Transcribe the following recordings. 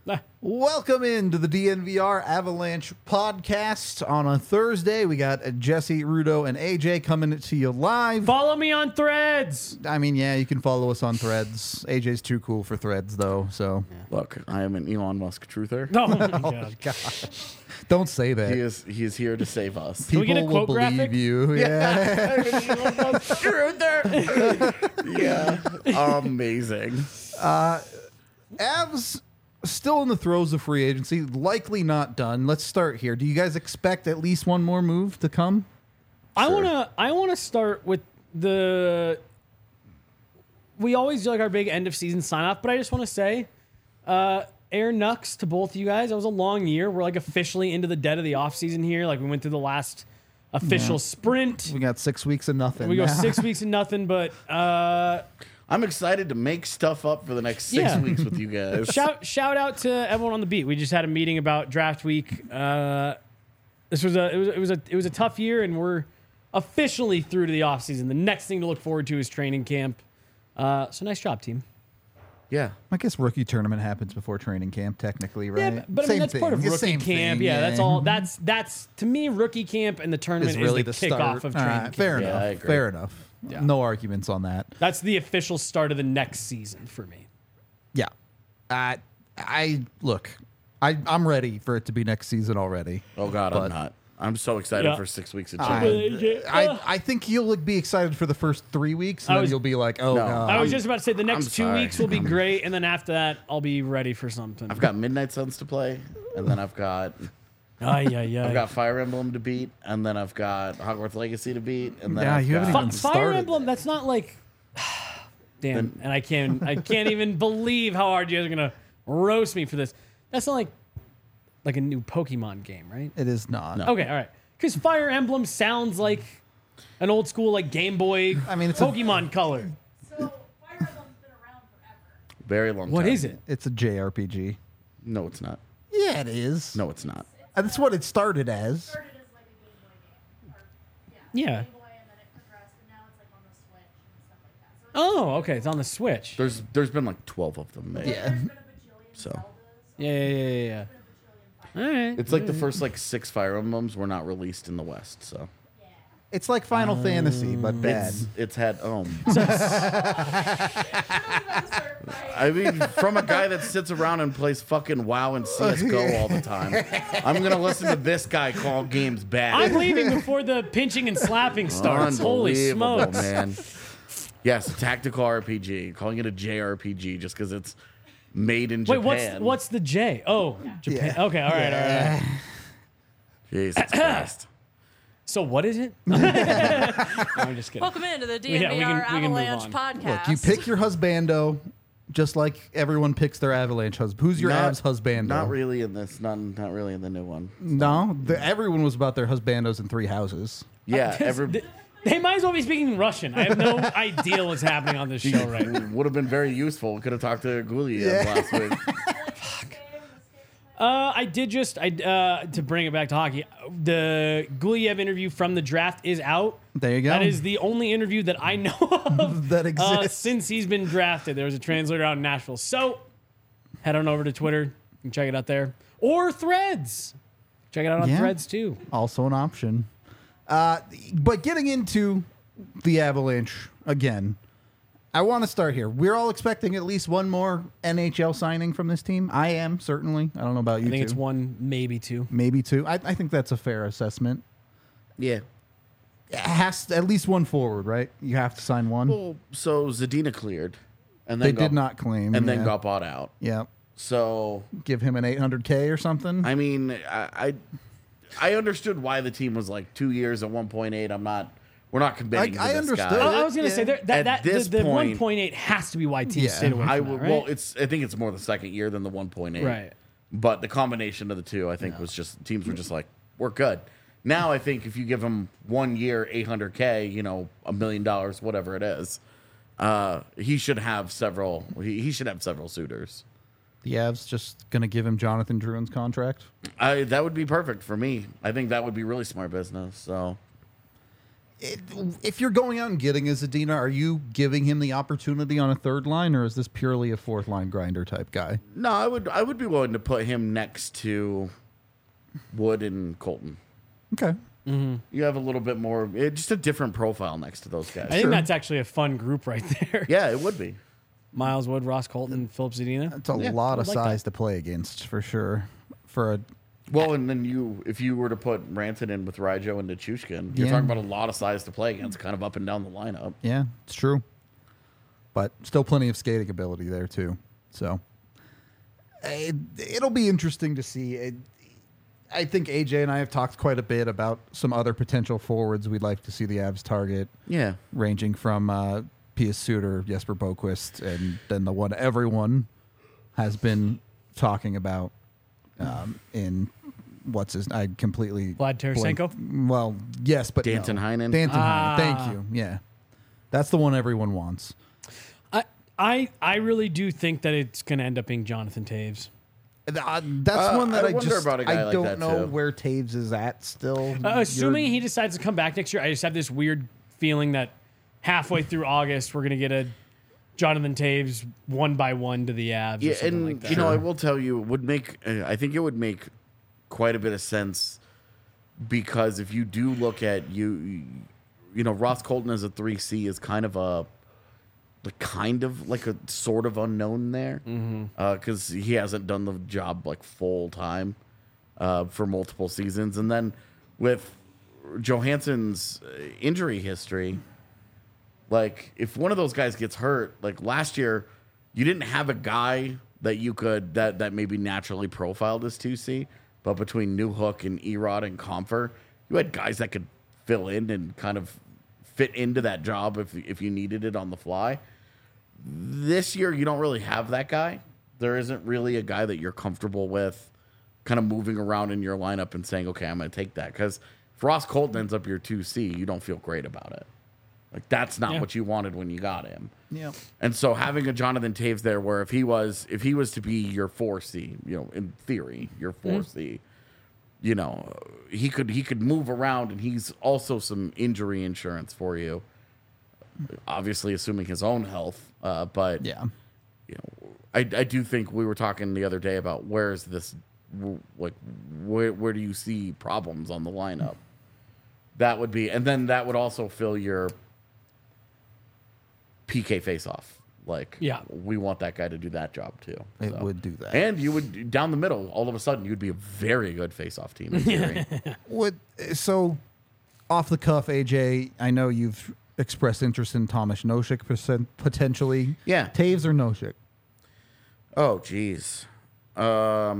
Welcome into the DNVR Avalanche podcast. On a Thursday, we got Jesse, Rudo, and AJ coming to you live. Follow me on Threads. I mean, yeah, you can follow us on Threads. AJ's too cool for Threads, though, so. Look, I am an Elon Musk truther. Oh, my God. Don't say that. He is here to save us. we get a People will quote believe graphic? you. Yeah. Yeah, amazing. Avs still in the throes of free agency, likely not done. Let's start here. Do you guys expect at least one more move to come? I wanna start with we always do like our big end of season sign off, but I just want to say, air Nux to both of you guys. It was a long year. We're like officially into the dead of the off season here. Like we went through the last official sprint. We got 6 weeks of nothing. We go 6 weeks and nothing, but I'm excited to make stuff up for the next 6 weeks with you guys. shout out to everyone on the beat. We just had a meeting about draft week. This was it was a tough year, and we're officially through to the off season. The next thing to look forward to is training camp. So nice job, team. Yeah. I guess rookie tournament happens before training camp, technically, right? Yeah, but I mean that's part of rookie camp. Yeah, that's all. That's to me, rookie camp and the tournament Is really the the kickoff start. of training camp. Fair Yeah, enough. I agree. Fair enough. Yeah. No arguments on that. That's the official start of the next season for me. Yeah. I'm ready for it to be next season already. Oh God, But- I'm not. I'm so excited Yeah. for 6 weeks of change. I think you'll be excited for the first 3 weeks, and then you'll be like, oh, No. God. I was just about to say the next I'm 2 sorry. weeks will be great, and then after that, I'll be ready for something. I've got Midnight Suns to play, and then I've got I've Fire Emblem to beat, and then I've got Hogwarts Legacy to beat, and then Yeah, I've you haven't got- even Fire started Emblem. it. That's not like, damn. And I can't even believe how hard you guys are gonna roast me for this. That's not like a new Pokemon game, right? It is not. No. Okay, all right. Because Fire Emblem sounds like an old school like Game Boy. I mean, it's Pokemon Color. So Fire Emblem's been around forever. very long What time. is it? It's a JRPG. No, it's not. Yeah, it is. No, it's not. That's what it started as. Started as like a Game Boy game. Or, Yeah. Game Boy, and then it progressed, and now it's like on the Switch and stuff like that. So Oh, okay. It's on the Switch. There's been like 12 of them made. Yeah. there's been a bajillion So. Zeldas. Yeah. There's been a bajillion Fire All right. It's like the first like 6 Fire Emblems were not released in the West, so It's like Final Fantasy, but bad. it's had I mean, from a guy that sits around and plays fucking WoW and CS:GO all the time, I'm gonna listen to this guy call games bad. I'm leaving before the pinching and slapping starts. Holy Unbelievable, smokes. man! Yes, a tactical RPG, calling it a JRPG just because it's made in Wait, Japan. what's the J? Oh, Japan. Yeah. Okay, all right. Jesus Christ? So what is it? I'm just kidding. Welcome into the Yeah, DNVR we can move Avalanche on. podcast. Look, you pick your husbando just like everyone picks their Avalanche husband. Who's your Not- Avs husbando? Not really in this. Not really in the new one. No, everyone was about their husbandos in 3 houses. Yeah, They might as well be speaking Russian. I have no idea what's happening on this show right now. would have been very useful. Could have talked to Guliev last week. I did just to bring it back to hockey. The Guliev interview from the draft is out. There you go. That is the only interview that I know of That exists. since he's been drafted. There was a translator out in Nashville. So head on over to Twitter and check it out there, or Threads. Check it out on Yeah. Threads too. Also an option. But getting into the Avalanche again, I want to start here. We're all expecting at least one more NHL signing from this team. I am, certainly. I don't know about you I think two. it's one, maybe two. Maybe 2. I think that's a fair assessment. Yeah. It has to, at least one forward, right? You have to sign one. Well, so Zadina cleared, and They then did not claim. and then yeah. got bought out. Yeah. So Give him an $800K or something. I mean, I understood why the team was like 2 years at 1.8. We're not committing to I this understood. guy. I was going to Yeah. say At that this the point- 1.8 has to be why teams Yeah. stayed away from I that, would. right? Well, I think it's more the second year than the 1.8. Right. But the combination of the two, I think, was just teams were just like, we're good. Now I think if you give him 1 year, $800K, $1 million, whatever it is, he should have several. He should have several suitors. The Avs just going to give him Jonathan Drouin's contract. That would be perfect for me. I think that would be really smart business. So if you're going out and getting a Zadina, are you giving him the opportunity on a third line, or is this purely a fourth line grinder type guy? No, I would be willing to put him next to Wood and Colton. Okay. You have a little bit more, just a different profile next to those guys. I think that's actually a fun group right there. Yeah, it would be. Miles Wood, Ross Colton, Philip Zadina. It's a Yeah, lot of like size to play against, for sure. For a Well, and then if you were to put Rantanen in with Ryjo and Nichushkin, you're Yeah. talking about a lot of size to play against, kind of up and down the lineup. Yeah, it's true. But still plenty of skating ability there, too. So it'll be interesting to see. I think AJ and I have talked quite a bit about some other potential forwards we'd like to see the Avs target, Yeah. ranging from Pius Suter, Jesper Boquist, and then the one everyone has been talking about in what's his... I completely... Vlad Tarasenko? blanked. Well, yes, but Danton no. Heinen? Danton Heinen. Thank you. Yeah. That's the one everyone wants. I really do think that it's going to end up being Jonathan Taves. That's one that I I wonder just about a guy I like don't that, know too. where Taves is at still. Assuming he decides to come back next year, I just have this weird feeling that halfway through August, we're going to get a Jonathan Taves 1-by-1 to the Avs. Yeah, or something and like that. you know, I will tell you, it would make. I think it would make quite a bit of sense because if you do look at you know, Ross Colton as a 3C is kind of a sort of unknown there because he hasn't done the job like full time for multiple seasons, and then with Johansson's injury history. Like, if one of those guys gets hurt, like last year, you didn't have a guy that you could that maybe naturally profiled as 2C, but between Newhook and Erod and Comfer, you had guys that could fill in and kind of fit into that job if you needed it on the fly. This year, you don't really have that guy. There isn't really a guy that you're comfortable with kind of moving around in your lineup and saying, okay, I'm going to take that. Because if Ross Colton ends up your 2C, you don't feel great about it. Like, that's not what you wanted when you got him. Yeah. And so having a Jonathan Taves there where if he was to be your 4C, you know, in theory, your 4C, you know, he could move around, and he's also some injury insurance for you. Obviously assuming his own health, but Yeah. you know, I do think we were talking the other day about where is this, like, where do you see problems on the lineup? That would be, and then that would also fill your PK face-off. Like, Yeah. we want that guy to do that job too. It So. would do that. And you would, down the middle, all of a sudden, you'd be a very good face-off team in theory. So, off the cuff, AJ, I know you've expressed interest in Thomas Nosek potentially. Yeah. Taves or Nosek? Oh, geez. I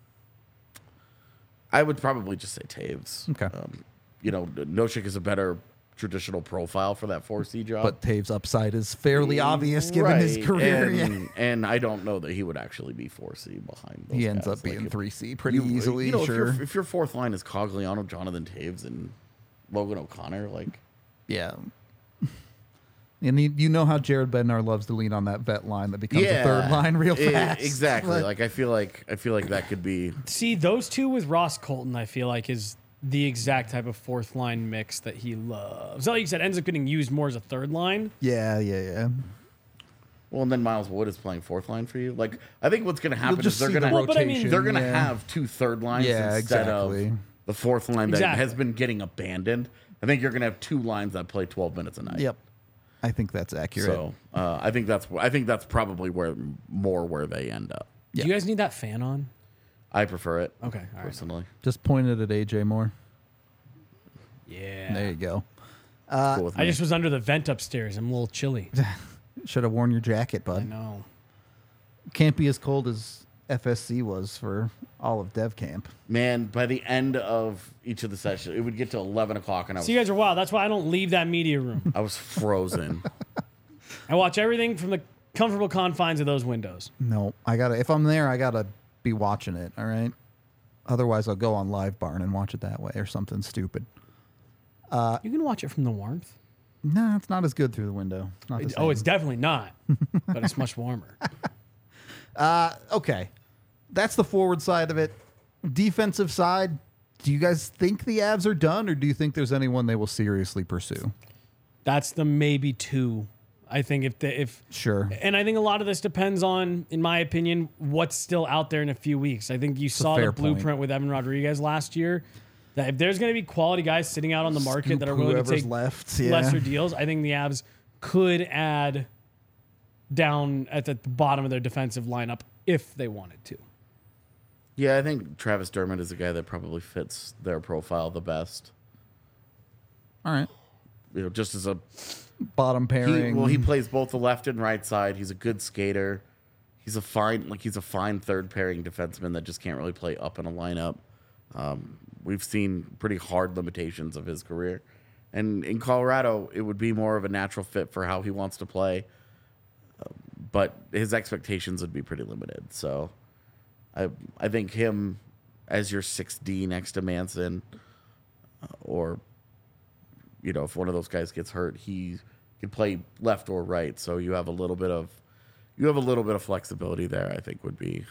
would probably just say Taves. Okay. You know, Nosek is a better traditional profile for that 4C job. But Taves' upside is fairly obvious given his Right, career. and, and I don't know that he would actually be 4C behind those He ends guys. up being Like, 3C pretty you- easily, you know, sure. if your fourth line is Cogliano, Jonathan Taves, and Logan O'Connor, like, Yeah. And you know how Jared Bednar loves to lean on that vet line that becomes a third line real fast. Exactly. Like, I feel like that could be. See, those two with Ross Colton, I feel like, is the exact type of fourth line mix that he loves. Like you said, ends up getting used more as a third line. Yeah. Well, and then Miles Wood is playing fourth line for you. Like, I think what's going to happen just is they're see going the to Well, but I mean- rotation. they're going to yeah. have two third lines Yeah, instead exactly. of the fourth line that Exactly. has been getting abandoned. I think you're going to have two lines that play 12 minutes a night. Yep. I think that's accurate. So I think that's probably where they end up. Yeah. Do you guys need that fan on? I prefer it. Okay, all right. Personally. Just pointed at AJ Moore. Yeah. There you go. Cool with I me. just was under the vent upstairs. I'm a little chilly. Should have worn your jacket, I bud. know. Can't be as cold as FSC was for all of Dev Camp. Man, by the end of each of the sessions, it would get to 11 o'clock, and So you guys are wild. That's why I don't leave that media room. I was frozen. I watch everything from the comfortable confines of those windows. No, if I'm there, I gotta be watching it. All right. Otherwise, I'll go on Live Barn and watch it that way or something stupid. You can watch it from the warmth. No, it's not as good through the window. It's not the Oh, same. it's definitely not, but it's much warmer. Okay. That's the forward side of it. Defensive side, Do you guys think the Avs are done, or do you think there's anyone they will seriously pursue? That's the maybe 2. I think if Sure. and I think a lot of this depends on, in my opinion, what's still out there in a few weeks. I think you saw the fair blueprint point. with Evan Rodriguez last year. That if there's going to be quality guys sitting out on the market that are willing to Whoever's take left, yeah. lesser deals, I think the Avs could add down at the bottom of their defensive lineup if they wanted to. Yeah, I think Travis Dermott is a guy that probably fits their profile the best. All right. You know, just as a Bottom pairing. he plays both the left and right side. He's a good skater. He's a fine third pairing defenseman that just can't really play up in a lineup. We've seen pretty hard limitations of his career, and in Colorado, it would be more of a natural fit for how he wants to play. But his expectations would be pretty limited. So, I think him as your 6D next to Manson, or you know, if one of those guys gets hurt, he can play left or right. So you have a little bit of flexibility there. I think would be.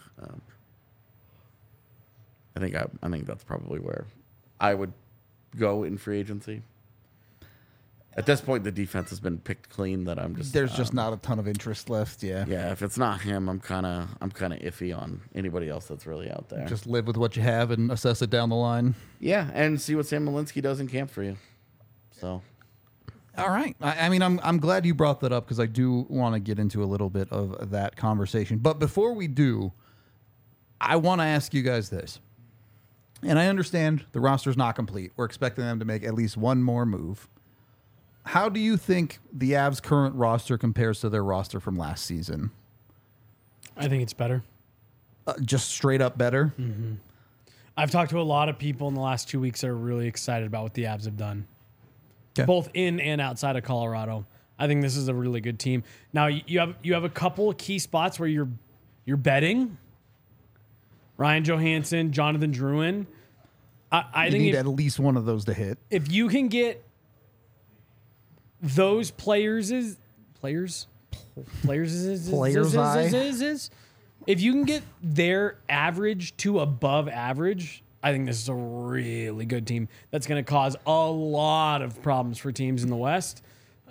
I think that's probably where I would go in free agency. At this point, the defense has been picked clean. That I'm just There's just not a ton of interest left. Yeah. yeah. If it's not him, I'm kind of iffy on anybody else that's really out there. Just live with what you have and assess it down the line. Yeah, and see what Sam Malinsky does in camp for you. So, All right. I mean, I'm glad you brought that up because I do want to get into a little bit of that conversation. But before we do, I want to ask you guys this. And I understand the roster's not complete. We're expecting them to make at least one more move. How do you think the Avs' current roster compares to their roster from last season? I think it's better. Just straight up better? I've talked to a lot of people in the last 2 weeks that are really excited about what the Avs have done, Okay. both in and outside of Colorado. I think this is a really good team. Now you have a couple of key spots where you're betting. Ryan Johansson, Jonathan Drouin. I You think need at least one of those to hit. if you can get those players, if you can get their average to above average, I think this is a really good team that's going to cause a lot of problems for teams in the West.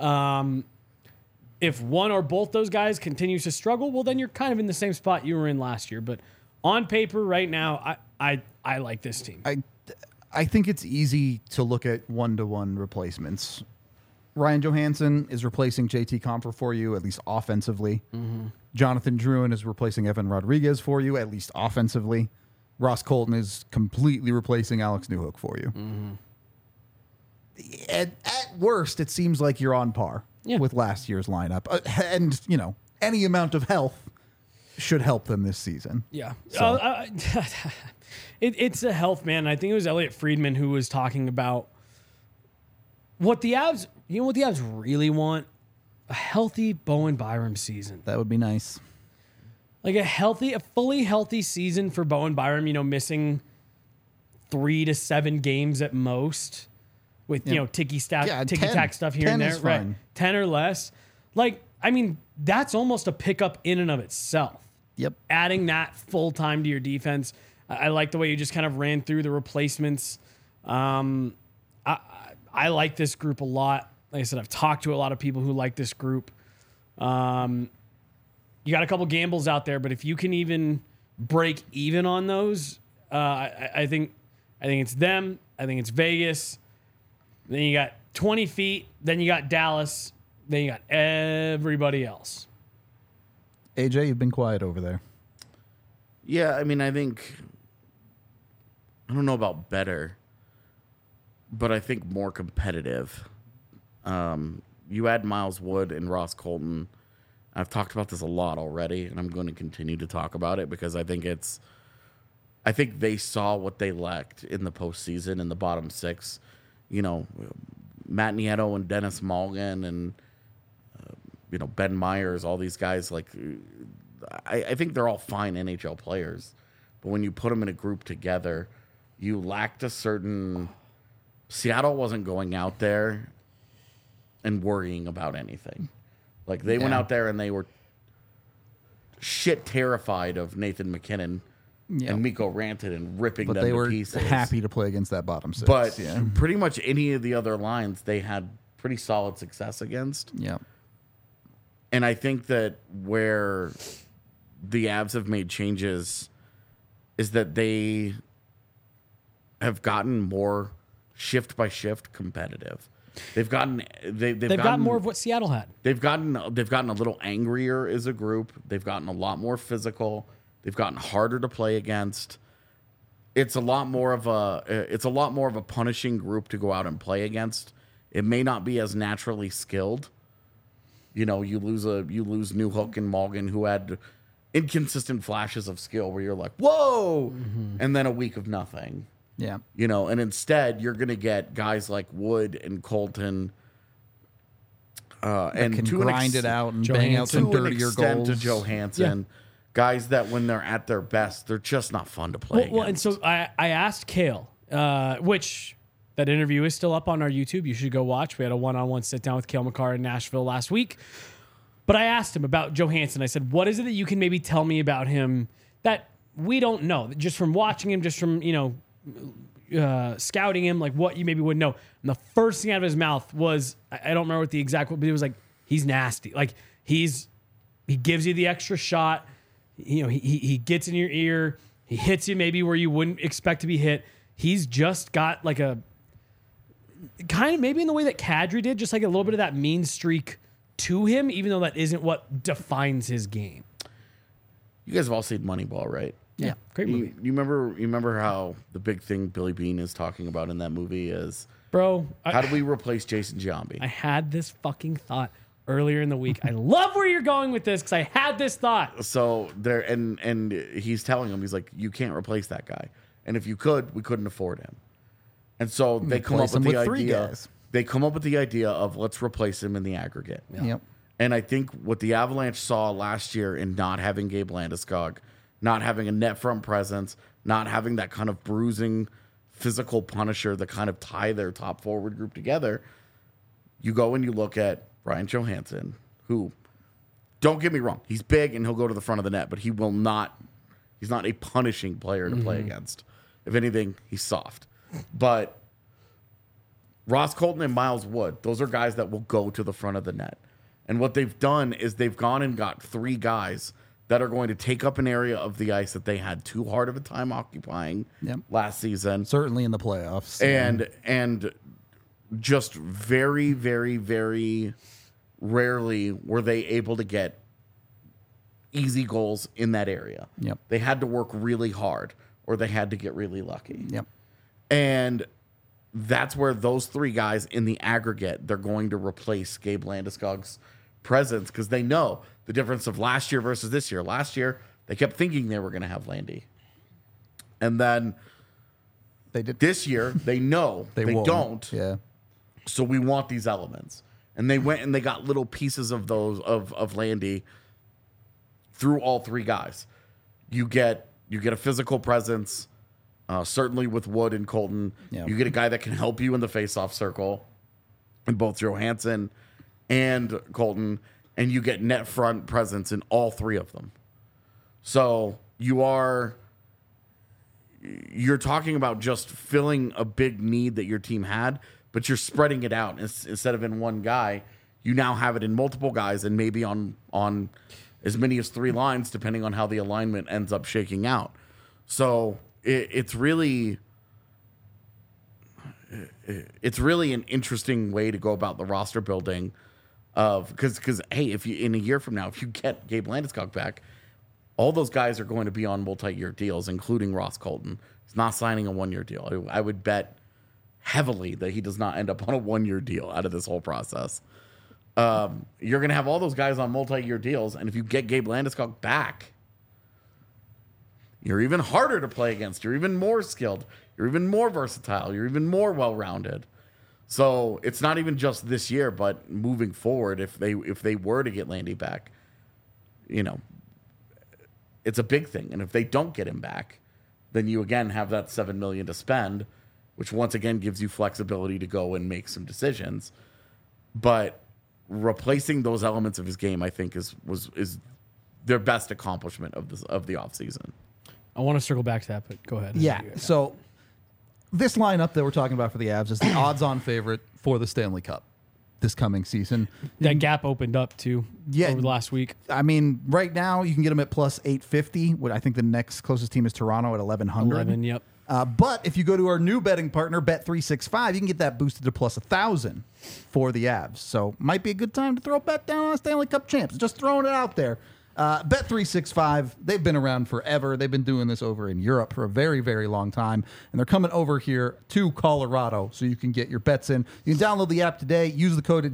If one or both those guys continues to struggle, well, then you're kind of in the same spot you were in last year. But on paper right now, I like this team. I think it's easy to look at one-to-one replacements. Ryan Johansson is replacing JT Compher for you, at least offensively. Jonathan Drouin is replacing Evan Rodriguez for you, at least offensively. Ross Colton is completely replacing Alex Newhook for you. At worst, it seems like you're on par with last year's lineup. And, you know, any amount of health should help them this season. Yeah. So- It's a health, man. I think it was Elliot Friedman who was talking about what the Avs, you know what the Avs really want? A healthy Bowen Byram season. That would be nice. Like a fully healthy season for Bowen Byram, you know, missing 3 to 7 games at most with, you know, ticky-tack stuff here 10 and there. is Right. fine. 10 or less. Like, I mean, that's almost a pickup in and of itself. Yep. Adding that full time to your defense. I like the way you just kind of ran through the replacements. I like this group a lot. Like I said, I've talked to a lot of people who like this group. You got a couple gambles out there, but if you can even break even on those, I think it's them. I think it's Vegas. Then you got 20 feet. Then you got Dallas. Then you got everybody else. AJ, you've been quiet over there. yeah, I mean, I don't know about better, but I think more competitive. You add Miles Wood and Ross Colton. I've talked about this a lot already, and I'm going to continue to talk about it because I think they saw what they lacked in the postseason in the bottom 6. You know, Matt Nieto and Dennis Mulligan and you know, Ben Myers, all these guys. Like, I think they're all fine NHL players, but when you put them in a group together, you lacked a certain. Seattle wasn't going out there and worrying about anything. Like, they went out there and they were shit terrified of Nathan McKinnon Yep. and Mikko Rantanen ripping But them they to were pieces. happy to play against that bottom six. But yeah. pretty much any of the other lines they had pretty solid success against. Yeah. And I think that where the Avs have made changes is that they have gotten more shift by shift competitive. They've gotten they've got more of what Seattle had. They've gotten a little angrier as a group. They've gotten a lot more physical. They've gotten harder to play against. It's a lot more of a punishing group to go out and play against. It may not be as naturally skilled. You know, you lose Newhook and Morgan, who had inconsistent flashes of skill where you're like, whoa, and then a week of nothing. Yeah. You know, and instead you're going to get guys like Wood and Colton, and Can to an grind it out and bang out some to an dirtier extent goals. to Johansson, guys that when they're at their best, they're just not fun to play. Well, and against. so I asked Kale, which that interview is still up on our YouTube. You should go watch. We had a one-on-one sit-down with Kale McCarr in Nashville last week. But I asked him about Johansson. I said, what is it that you can maybe tell me about him that we don't know? Just from watching him, just from, scouting him, like what you maybe wouldn't know. And the first thing out of his mouth was, I don't remember what the exact, but it was like, he's nasty. Like he gives you the extra shot. You know, he gets in your ear. He hits you maybe where you wouldn't expect to be hit. He's just got like a kind of maybe in the way that Kadri did, just like a little bit of that mean streak to him, even though that isn't what defines his game. You guys have all seen Moneyball, right? Yeah, great movie. You remember how the big thing Billy Beane is talking about in that movie is, Bro, how do we replace Jason Giambi? I had this fucking thought earlier in the week. I love where you're going with this because I had this thought. So there, and he's telling him, he's like, you can't replace that guy, and if you could, we couldn't afford him. And so they come up Replace him with the with three idea. guys. They come up with the idea of let's replace him in the aggregate. Yep. And I think what the Avalanche saw last year in not having Gabe Landeskog, not having a net front presence, not having that kind of bruising physical punisher that kind of tie their top forward group together, you go and you look at Ryan Johansson, who, don't get me wrong, he's big and he'll go to the front of the net, but he's not a punishing player to play against. If anything, he's soft. But Ross Colton and Miles Wood, those are guys that will go to the front of the net. And what they've done is they've gone and got three guys that are going to take up an area of the ice that they had too hard of a time occupying last season. Certainly in the playoffs. And just very, very, very rarely were they able to get easy goals in that area. Yep. They had to work really hard or they had to get really lucky. Yep. And that's where those three guys in the aggregate, they're going to replace Gabe Landeskog's presence because they know the difference of last year versus this year. Last year, they kept thinking they were going to have Landy. And then They did. this year, they know they won't. don't. Yeah. So we want these elements. And they went and they got little pieces of those of Landy through all three guys. You get a physical presence, certainly with Wood and Colton. Yeah. You get a guy that can help you in the face-off circle in both Johansson and Colton, and you get net front presence in all three of them. So you're talking about just filling a big need that your team had, but you're spreading it out instead of in one guy. You now have it in multiple guys and maybe on as many as three lines, depending on how the alignment ends up shaking out. So it's really an interesting way to go about the roster building. Because hey, if you in a year from now, if you get Gabe Landeskog back, all those guys are going to be on multi-year deals, including Ross Colton. He's not signing a one-year deal. I would bet heavily that he does not end up on a one-year deal out of this whole process. You're going to have all those guys on multi-year deals, and if you get Gabe Landeskog back, you're even harder to play against. You're even more skilled. You're even more versatile. You're even more well-rounded. So it's not even just this year, but moving forward, if they were to get Landy back, it's a big thing. And if they don't get him back, then you again have that $7 million to spend, which once again gives you flexibility to go and make some decisions. But replacing those elements of his game, I think, is their best accomplishment of the offseason. I want to circle back to that, but go ahead. Yeah. So this lineup that we're talking about for the Avs is the odds-on favorite for the Stanley Cup this coming season. That gap opened up too over the last week. I mean, right now you can get them at plus 850. I think the next closest team is Toronto at 1100. 11, yep. But if you go to our new betting partner, Bet365, you can get that boosted to plus 1,000 for the Avs. So might be a good time to throw a bet down on Stanley Cup champs. Just throwing it out there. Bet365, they've been around forever. They've been doing this over in Europe for a very, very long time. And they're coming over here to Colorado so you can get your bets in. You can download the app today. Use the code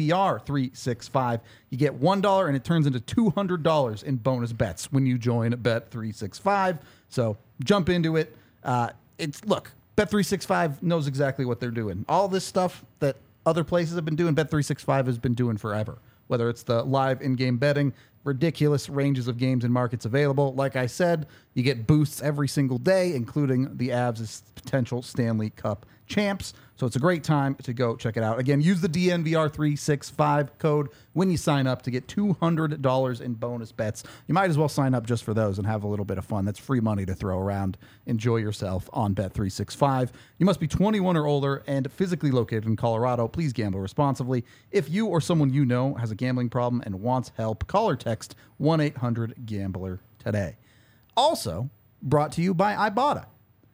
DNVR365. You get $1 and it turns into $200 in bonus bets when you join Bet365. So jump into it. Look, Bet365 knows exactly what they're doing. All this stuff that other places have been doing, Bet365 has been doing forever. Whether it's the live in-game betting, ridiculous ranges of games and markets available. Like I said, you get boosts every single day, including the Avs' potential Stanley Cup champs. So it's a great time to go check it out. Again, use the DNVR365 code when you sign up to get $200 in bonus bets. You might as well sign up just for those and have a little bit of fun. That's free money to throw around. Enjoy yourself on Bet365. You must be 21 or older and physically located in Colorado. Please gamble responsibly. If you or someone you know has a gambling problem and wants help, call or text 1-800-GAMBLER today. Also brought to you by Ibotta.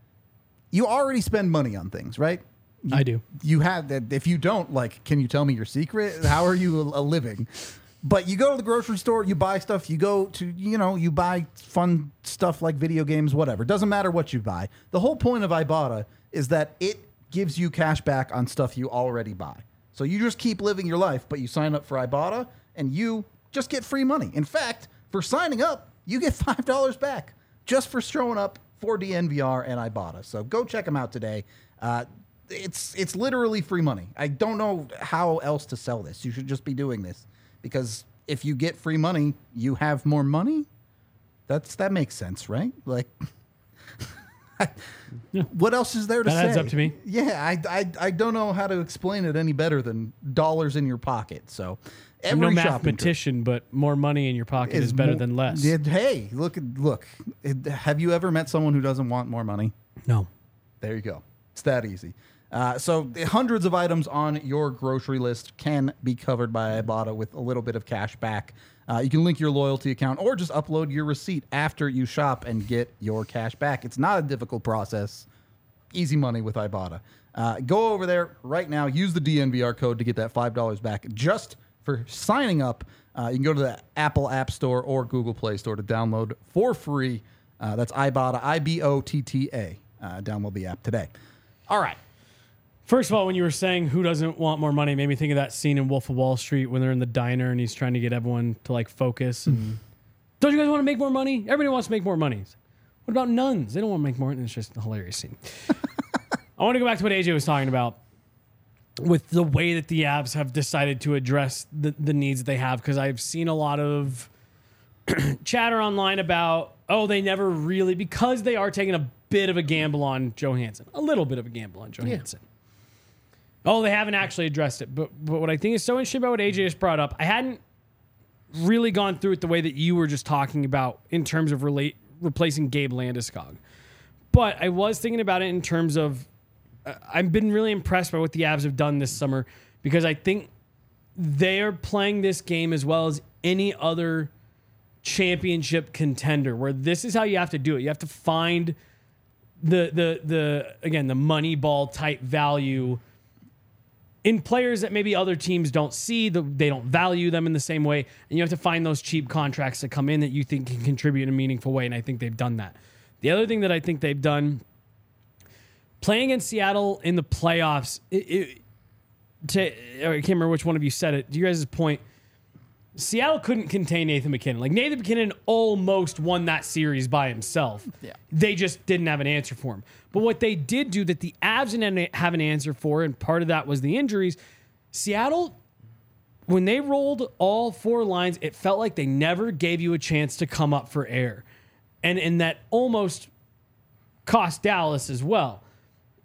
You already spend money on things, right? I do. You have that. If you don't, can you tell me your secret? How are you a living? But you go to the grocery store, you buy stuff, you go to, you buy fun stuff like video games, whatever. Doesn't matter what you buy. The whole point of Ibotta is that it gives you cash back on stuff you already buy. So you just keep living your life, but you sign up for Ibotta and you just get free money. In fact, for signing up, you get $5 back just for showing up for DNVR and Ibotta. So go check them out today. It's literally free money. I don't know how else to sell this. You should just be doing this because if you get free money, you have more money. That makes sense, right? What else is there to say? That adds up to me. Yeah, I don't know how to explain it any better than dollars in your pocket. So I'm no mathematician, but more money in your pocket is better than less. Hey, look. Have you ever met someone who doesn't want more money? No. There you go. It's that easy. So hundreds of items on your grocery list can be covered by Ibotta with a little bit of cash back. You can link your loyalty account or just upload your receipt after you shop and get your cash back. It's not a difficult process. Easy money with Ibotta. Go over there right now. Use the DNVR code to get that $5 back just for signing up. You can go to the Apple App Store or Google Play Store to download for free. That's Ibotta, IBOTTA. Download the app today. All right. First of all, when you were saying who doesn't want more money, it made me think of that scene in Wolf of Wall Street when they're in the diner and he's trying to get everyone to focus. And don't you guys want to make more money? Everybody wants to make more money. What about nuns? They don't want to make more. It's just a hilarious scene. I want to go back to what AJ was talking about with the way that the Avs have decided to address the needs that they have, because I've seen a lot of chatter online about, they never really, because they are taking a bit of a gamble on Johansson. A little bit of a gamble on Johansson. Yeah. They haven't actually addressed it. But what I think is so interesting about what AJ just brought up, I hadn't really gone through it the way that you were just talking about in terms of replacing Gabe Landeskog. But I was thinking about it in terms of, I've been really impressed by what the Avs have done this summer, because I think they're playing this game as well as any other championship contender, where this is how you have to do it. You have to find the money ball type value in players that maybe other teams don't see, they don't value them in the same way, and you have to find those cheap contracts that come in that you think can contribute in a meaningful way, and I think they've done that. The other thing that I think they've done, playing against Seattle in the playoffs, I can't remember which one of you said it, to your guys' point, Seattle couldn't contain Nathan MacKinnon. Nathan MacKinnon almost won that series by himself. Yeah. They just didn't have an answer for him. But what they did do that the Avs didn't have an answer for, and part of that was the injuries, Seattle, when they rolled all four lines, it felt like they never gave you a chance to come up for air. And that almost cost Dallas as well.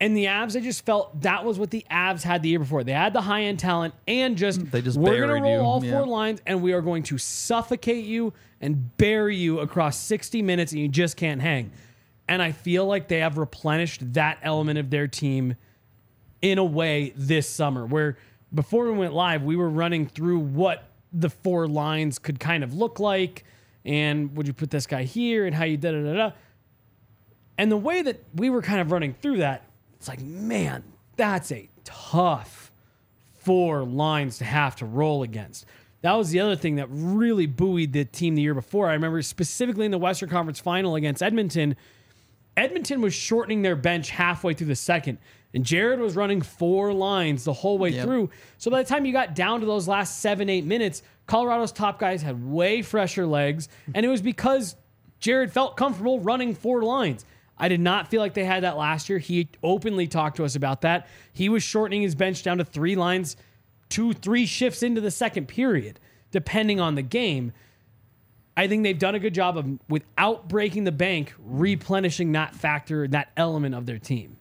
And the Avs, I just felt that was what the Avs had the year before. They had the high-end talent and They just we're going to buried roll you. all Yeah. 4 lines and we are going to suffocate you and bury you across 60 minutes and you just can't hang. And I feel like they have replenished that element of their team in a way this summer, where before we went live, we were running through what the 4 lines could kind of look like and would you put this guy here and how you da-da-da-da. And the way that we were kind of running through that, it's like, man, that's a tough 4 lines to have to roll against. That was the other thing that really buoyed the team the year before. I remember specifically in the Western Conference Final against Edmonton, Edmonton was shortening their bench halfway through the second, and Jared was running 4 lines the whole way through. So by the time you got down to those last 7-8 minutes, Colorado's top guys had way fresher legs, and it was because Jared felt comfortable running 4 lines. I did not feel like they had that last year. He openly talked to us about that. He was shortening his bench down to 3 lines, 2-3 shifts into the second period, depending on the game. I think they've done a good job of, without breaking the bank, replenishing that factor, that element of their team.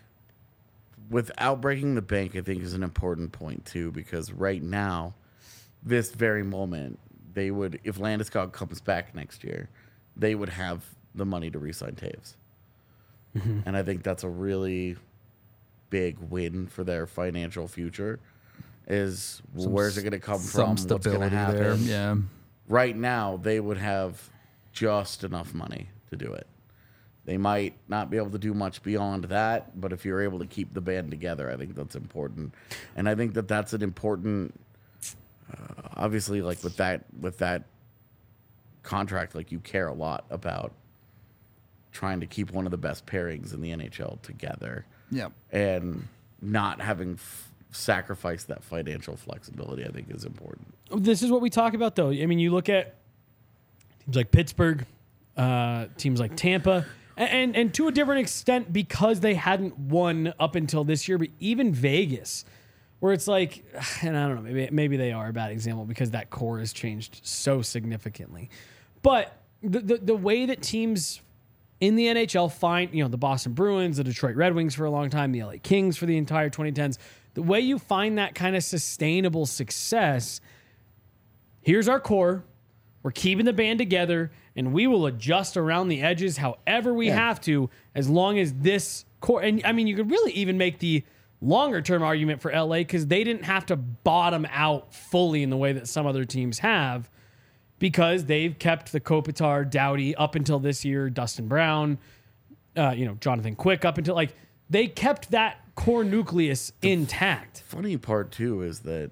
Without breaking the bank, I think is an important point too, because right now, this very moment, they would, if Landeskog comes back next year, they would have the money to re-sign Taves. And I think that's a really big win for their financial future. Is where's it going to come from? What's going to stability happen? there. Yeah. Right now, they would have just enough money to do it. They might not be able to do much beyond that, but if you're able to keep the band together, I think that's important. And I think that that's an important, obviously, like with that contract, like you care a lot about trying to keep one of the best pairings in the NHL together. Yeah. And not having sacrificed that financial flexibility, I think is important. This is what we talk about, though. I mean, you look at teams like Pittsburgh, teams like Tampa, and to a different extent because they hadn't won up until this year, but even Vegas, where it's like, and I don't know, maybe they are a bad example because that core has changed so significantly. But the way that teams in the NHL find, the Boston Bruins, the Detroit Red Wings for a long time, the LA Kings for the entire 2010s, the way you find that kind of sustainable success, here's our core, we're keeping the band together, and we will adjust around the edges however we have to, as long as this core, and I mean, you could really even make the longer term argument for LA because they didn't have to bottom out fully in the way that some other teams have, because they've kept the Kopitar, Doughty up until this year, Dustin Brown, Jonathan Quick up until, like, they kept that core nucleus intact. Funny part too is that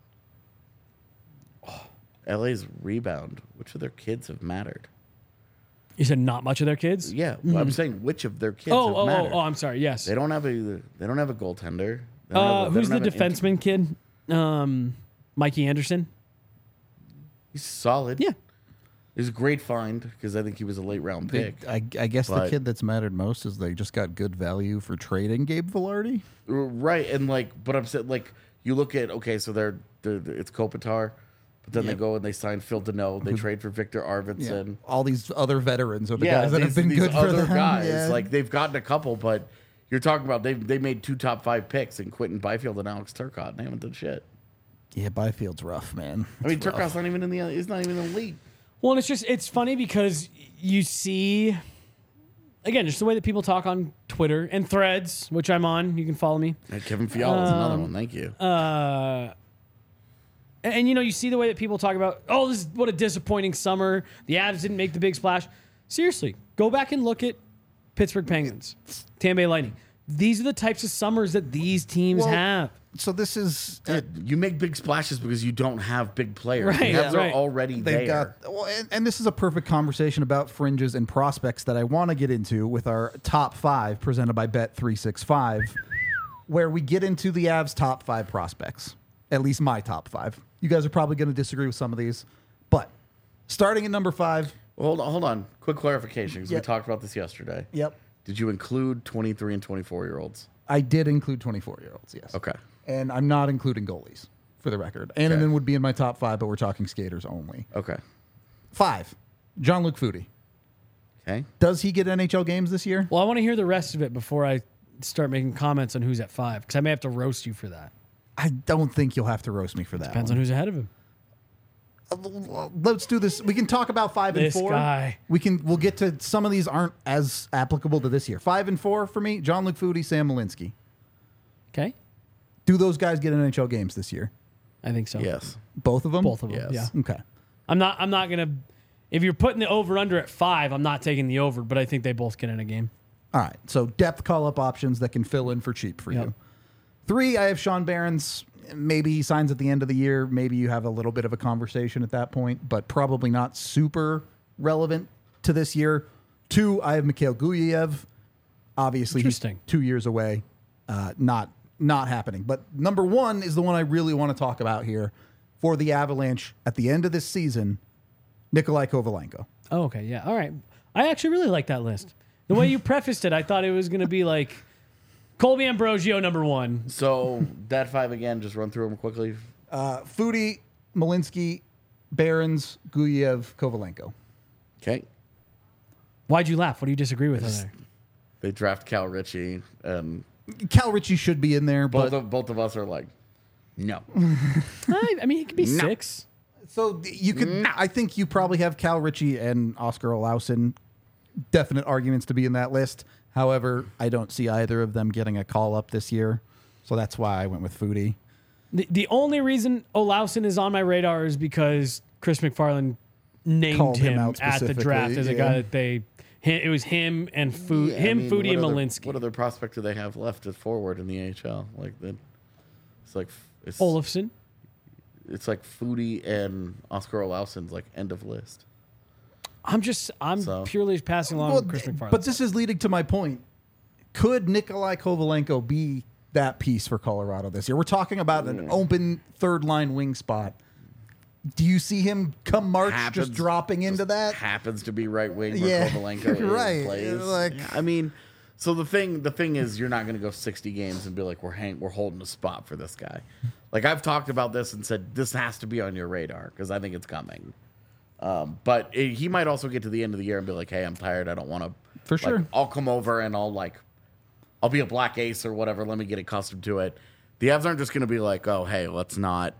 LA's rebound, which of their kids have mattered? You said not much of their kids? Yeah, well, I'm saying which of their kids have mattered. Oh, I'm sorry. Yes. They don't have a goaltender. They don't Who's the have an defenseman kid? Mikey Anderson. He's solid. Yeah. He's a great find because I think he was a late round pick. I guess the But- kid that's mattered most is they just got good value for trading Gabe Velarde. Right, and but I'm saying, you look at, so they're it's Kopitar, but then they go and they sign Phil Deneau. They trade for Victor Arvidsson. All these other veterans are the guys that have been these good for other them. guys. Yeah. They've gotten a couple, but you're talking about they made 2 top 5 picks in Quentin Byfield and Alex Turcotte. And they haven't done shit. Yeah, Byfield's rough, man. I mean, It's rough. Turcotte's not even in the league. Well, and it's funny because you see, again, just the way that people talk on Twitter and Threads, which I'm on. You can follow me. And Kevin Fiala is another one. Thank you. And you see the way that people talk about, this is what a disappointing summer. The Avs didn't make the big splash. Seriously, go back and look at Pittsburgh Penguins, Tampa Bay Lightning. These are the types of summers that these teams have. So this is You make big splashes because you don't have big players. Right, The Avs right. are already they've there. got and this is a perfect conversation about fringes and prospects that I want to get into with our top 5 presented by Bet365, where we get into the Avs top 5 prospects. At least my top 5. You guys are probably going to disagree with some of these, but starting at number 5. Hold on. Quick clarification because we Yep. talked about this yesterday. Yep. Did you include 23 and 24-year-olds? I did include 24-year-olds, yes. Okay. And I'm not including goalies, for the record. Annanen would be in my top 5, but we're talking skaters only. Okay. 5, Jean-Luc Foudy. Okay. Does he get NHL games this year? Well, I want to hear the rest of it before I start making comments on who's at 5 because I may have to roast you for that. I don't think you'll have to roast me for that. Depends on who's ahead of him. Let's do this. We can talk about 5 and This 4. guy. We'll get to some of these aren't as applicable to this year. 5 and 4 for me, John-Luc Foudy, Sam Malinsky. Okay, Do those guys get NHL games this year? I think so. Yes. Both of them? Both of them. Yes. Yeah. Okay. I'm not gonna. If you're putting the over under at 5, I'm not taking the over, but I think they both get in a game. All right. So depth call-up options that can fill in for cheap for Yep. you. 3, I have Sean Barons. Maybe he signs at the end of the year. Maybe you have a little bit of a conversation at that point, but probably not super relevant to this year. 2, I have Mikhail Guyayev. Obviously, he's Interesting. 2 years away. Not happening. But number 1 is the one I really want to talk about here for the Avalanche at the end of this season, Nikolai Kovalenko. Oh, okay, yeah, all right. I actually really like that list. The way you prefaced it, I thought it was going to be like Colby Ambrosio number 1. So that 5 again, just run through them quickly. Foudy, Malinsky, Barons, Guyayev, Kovalenko. Okay. Why'd you laugh? What do you disagree with? There? They draft Cal Ritchie, and Cal Ritchie should be in there, but both of us are like, no. I mean, it could be 6. so you could. I think you probably have Cal Ritchie and Oscar Olausen. Definite arguments to be in that list. However, I don't see either of them getting a call up this year, so that's why I went with Foudy. The only reason Olausen is on my radar is because Chris McFarland named Called him him out at the draft specifically, as a yeah. guy that it was him and Foudy, Yeah, I mean, Foudy, and what other- Malinsky. What other prospect do they have left at forward in the AHL? Like that, it's Olofsson. It's like Foudy and Oscar Olausen's like end of list. I'm So- purely passing along Well, with Chris McFarland. but this is leading to my point. Could Nikolai Kovalenko be that piece for Colorado this year? We're talking about an open third line wing spot. Do you see him come March Happens- just dropping into that? Happens to be right wing where Yeah, Kovalenko right. plays. Like- Yeah, I mean, so the thing is, you're not going to go 60 games and be like, we're holding a spot for this guy. Like I've talked about this and said this has to be on your radar because I think it's coming. But he might also get to the end of the year and be like, hey, I'm tired. I don't want to. For sure. I'll come over and I'll be a black ace or whatever. Let me get accustomed to it. The Avs aren't just going to be like, oh, hey, let's not.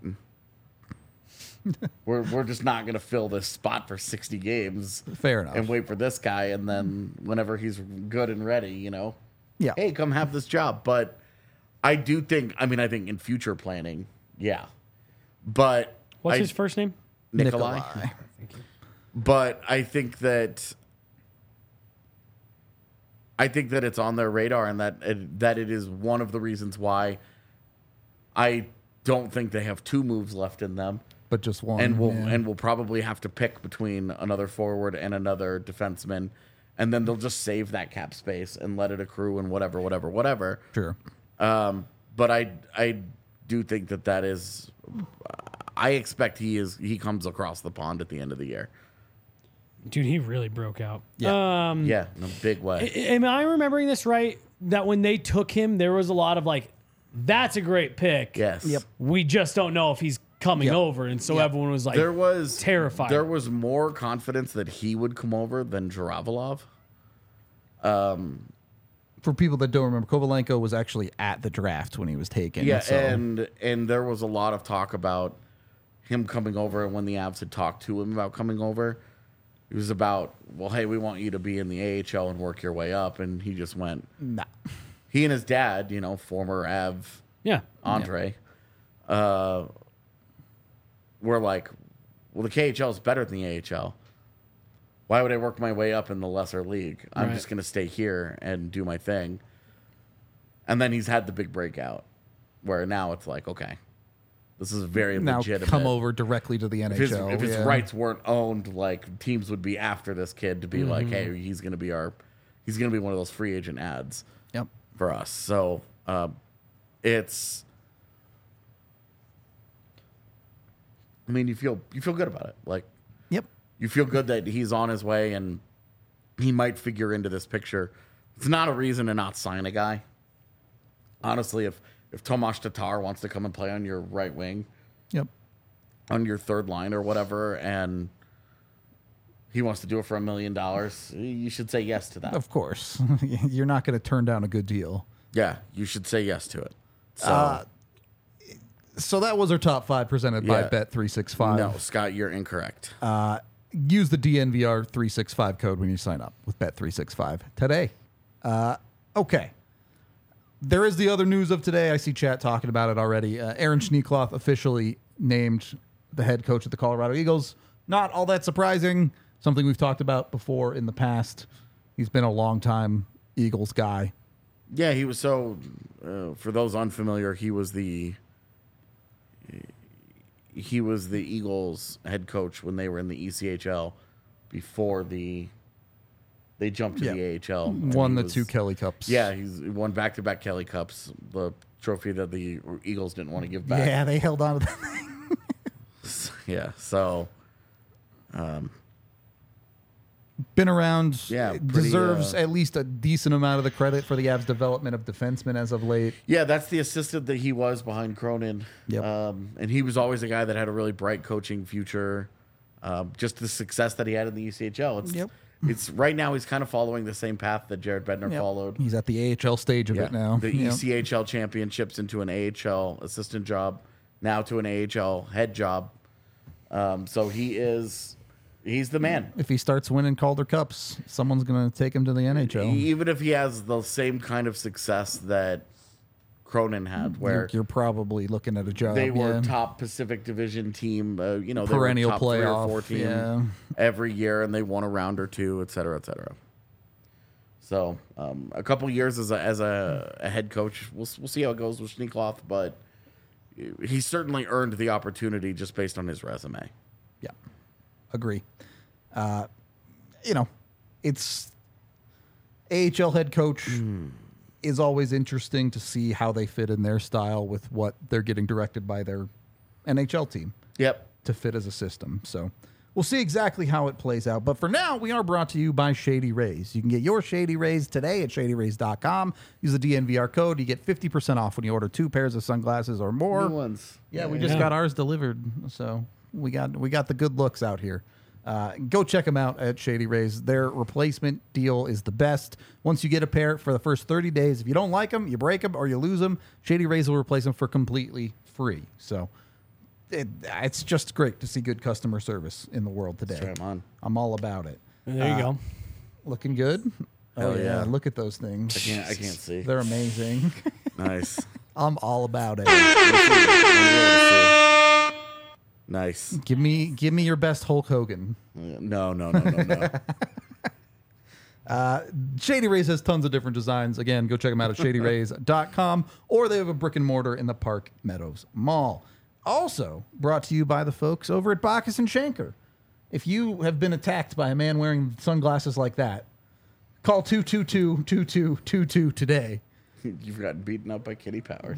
we're just not going to fill this spot for 60 games. Fair enough. And wait for this guy. And then whenever he's good and ready, Yeah. hey, come have this job. But I do think, I think in future planning, yeah. But What's his first name? Nikolai. But I think that it's on their radar, and that it is one of the reasons why I don't think they have 2 moves left in them, But just one. and yeah. we'll probably have to pick between another forward and another defenseman, and then they'll just save that cap space and let it accrue and whatever. Sure. But I do think that is. I expect he comes across the pond at the end of the year. Dude, he really broke out. Yeah. Yeah, in a big way. Am I remembering this right? That when they took him, there was a lot of like, that's a great pick. Yes. Yep. We just don't know if he's coming Yep. over. And so Yep. everyone was like, There was terrified. There was more confidence that he would come over than Zhiravalov. For people that don't remember, Kovalenko was actually at the draft when he was taken. Yeah, so. and there was a lot of talk about him coming over, and when the Avs had talked to him about coming over, it was about, well, hey, we want you to be in the AHL and work your way up, and he just went. Nah. He and his dad, former Av yeah. Andre, were like, well, the KHL is better than the AHL. Why would I work my way up in the lesser league? I'm Right. just going to stay here and do my thing. And then he's had the big breakout where now it's like, okay, this is very Now legitimate. come over directly to the NHL. If his yeah. rights weren't owned, like teams would be after this kid to be like, hey, he's going to be one of those free agent ads Yep. for us. So it's, you feel good about it. Like, Yep. you feel good that he's on his way and he might figure into this picture. It's not a reason to not sign a guy. Honestly, if Tomas Tatar wants to come and play on your right wing, Yep. on your third line or whatever, and he wants to do it for $1 million, you should say yes to that. Of course. You're not going to turn down a good deal. Yeah, you should say yes to it. So, So that was our top 5 presented by Yeah. Bet365. no, Scott, you're incorrect. Use the DNVR 365 code when you sign up with Bet365 today. Okay. There is the other news of today. I see chat talking about it already. Aaron Schneekloth officially named the head coach of the Colorado Eagles. Not all that surprising. Something we've talked about before in the past. He's been a long time Eagles guy. Yeah, he was so. For those unfamiliar, he was the Eagles head coach when they were in the ECHL before they jumped to the AHL. And Won he the was- 2 Kelly Cups. Yeah, he's won back-to-back Kelly Cups, the trophy that the Eagles didn't want to give back. Yeah, they held on to that. Yeah, so Been around. Yeah, pretty, deserves at least a decent amount of the credit for the Avs' development of defensemen as of late. yeah, that's the assistant that he was behind Cronin. Yep. And he was always a guy that had a really bright coaching future. Just the success that he had in the ECHL. Yep. It's right now he's kind of following the same path that Jared Bednar Yep. followed. He's at the AHL stage of it now. The Yep. ECHL championships into an AHL assistant job, now to an AHL head job. So he's the man. If he starts winning Calder Cups, someone's going to take him to the NHL. Even if he has the same kind of success that Cronin had, where You're probably looking at a job. they were yeah. top Pacific Division team, they Perennial were top 3 or playoff, 4 team yeah. every year, and they won a round or two, et cetera, et cetera. So a couple years as a head coach, we'll see how it goes with Schneekloth, but he certainly earned the opportunity just based on his resume. Yeah, agree. It's AHL head coach is always interesting to see how they fit in their style with what they're getting directed by their NHL team Yep. to fit as a system. So we'll see exactly how it plays out. But for now, we are brought to you by Shady Rays. You can get your Shady Rays today at shadyrays.com. Use the DNVR code. You get 50% off when you order 2 pairs of sunglasses or more. New ones. Yeah, we just got ours delivered, so we got the good looks out here. Go check them out at Shady Rays. Their replacement deal is the best. Once you get a pair for the first 30 days, if you don't like them, you break them or you lose them, Shady Rays will replace them for completely free. So it's just great to see good customer service in the world today. Try 'em on. I'm all about it. There you go. Looking good? Hell yeah. Look at those things. I can't see. They're amazing. Nice. I'm all about it. Nice. Give me your best Hulk Hogan. No. Shady Rays has tons of different designs. Again, go check them out at shadyrays.com, or they have a brick and mortar in the Park Meadows Mall. Also brought to you by the folks over at Bacchus and Schenker. If you have been attacked by a man wearing sunglasses like that, call 222-2222 today. You've gotten beaten up by Kitty Powers.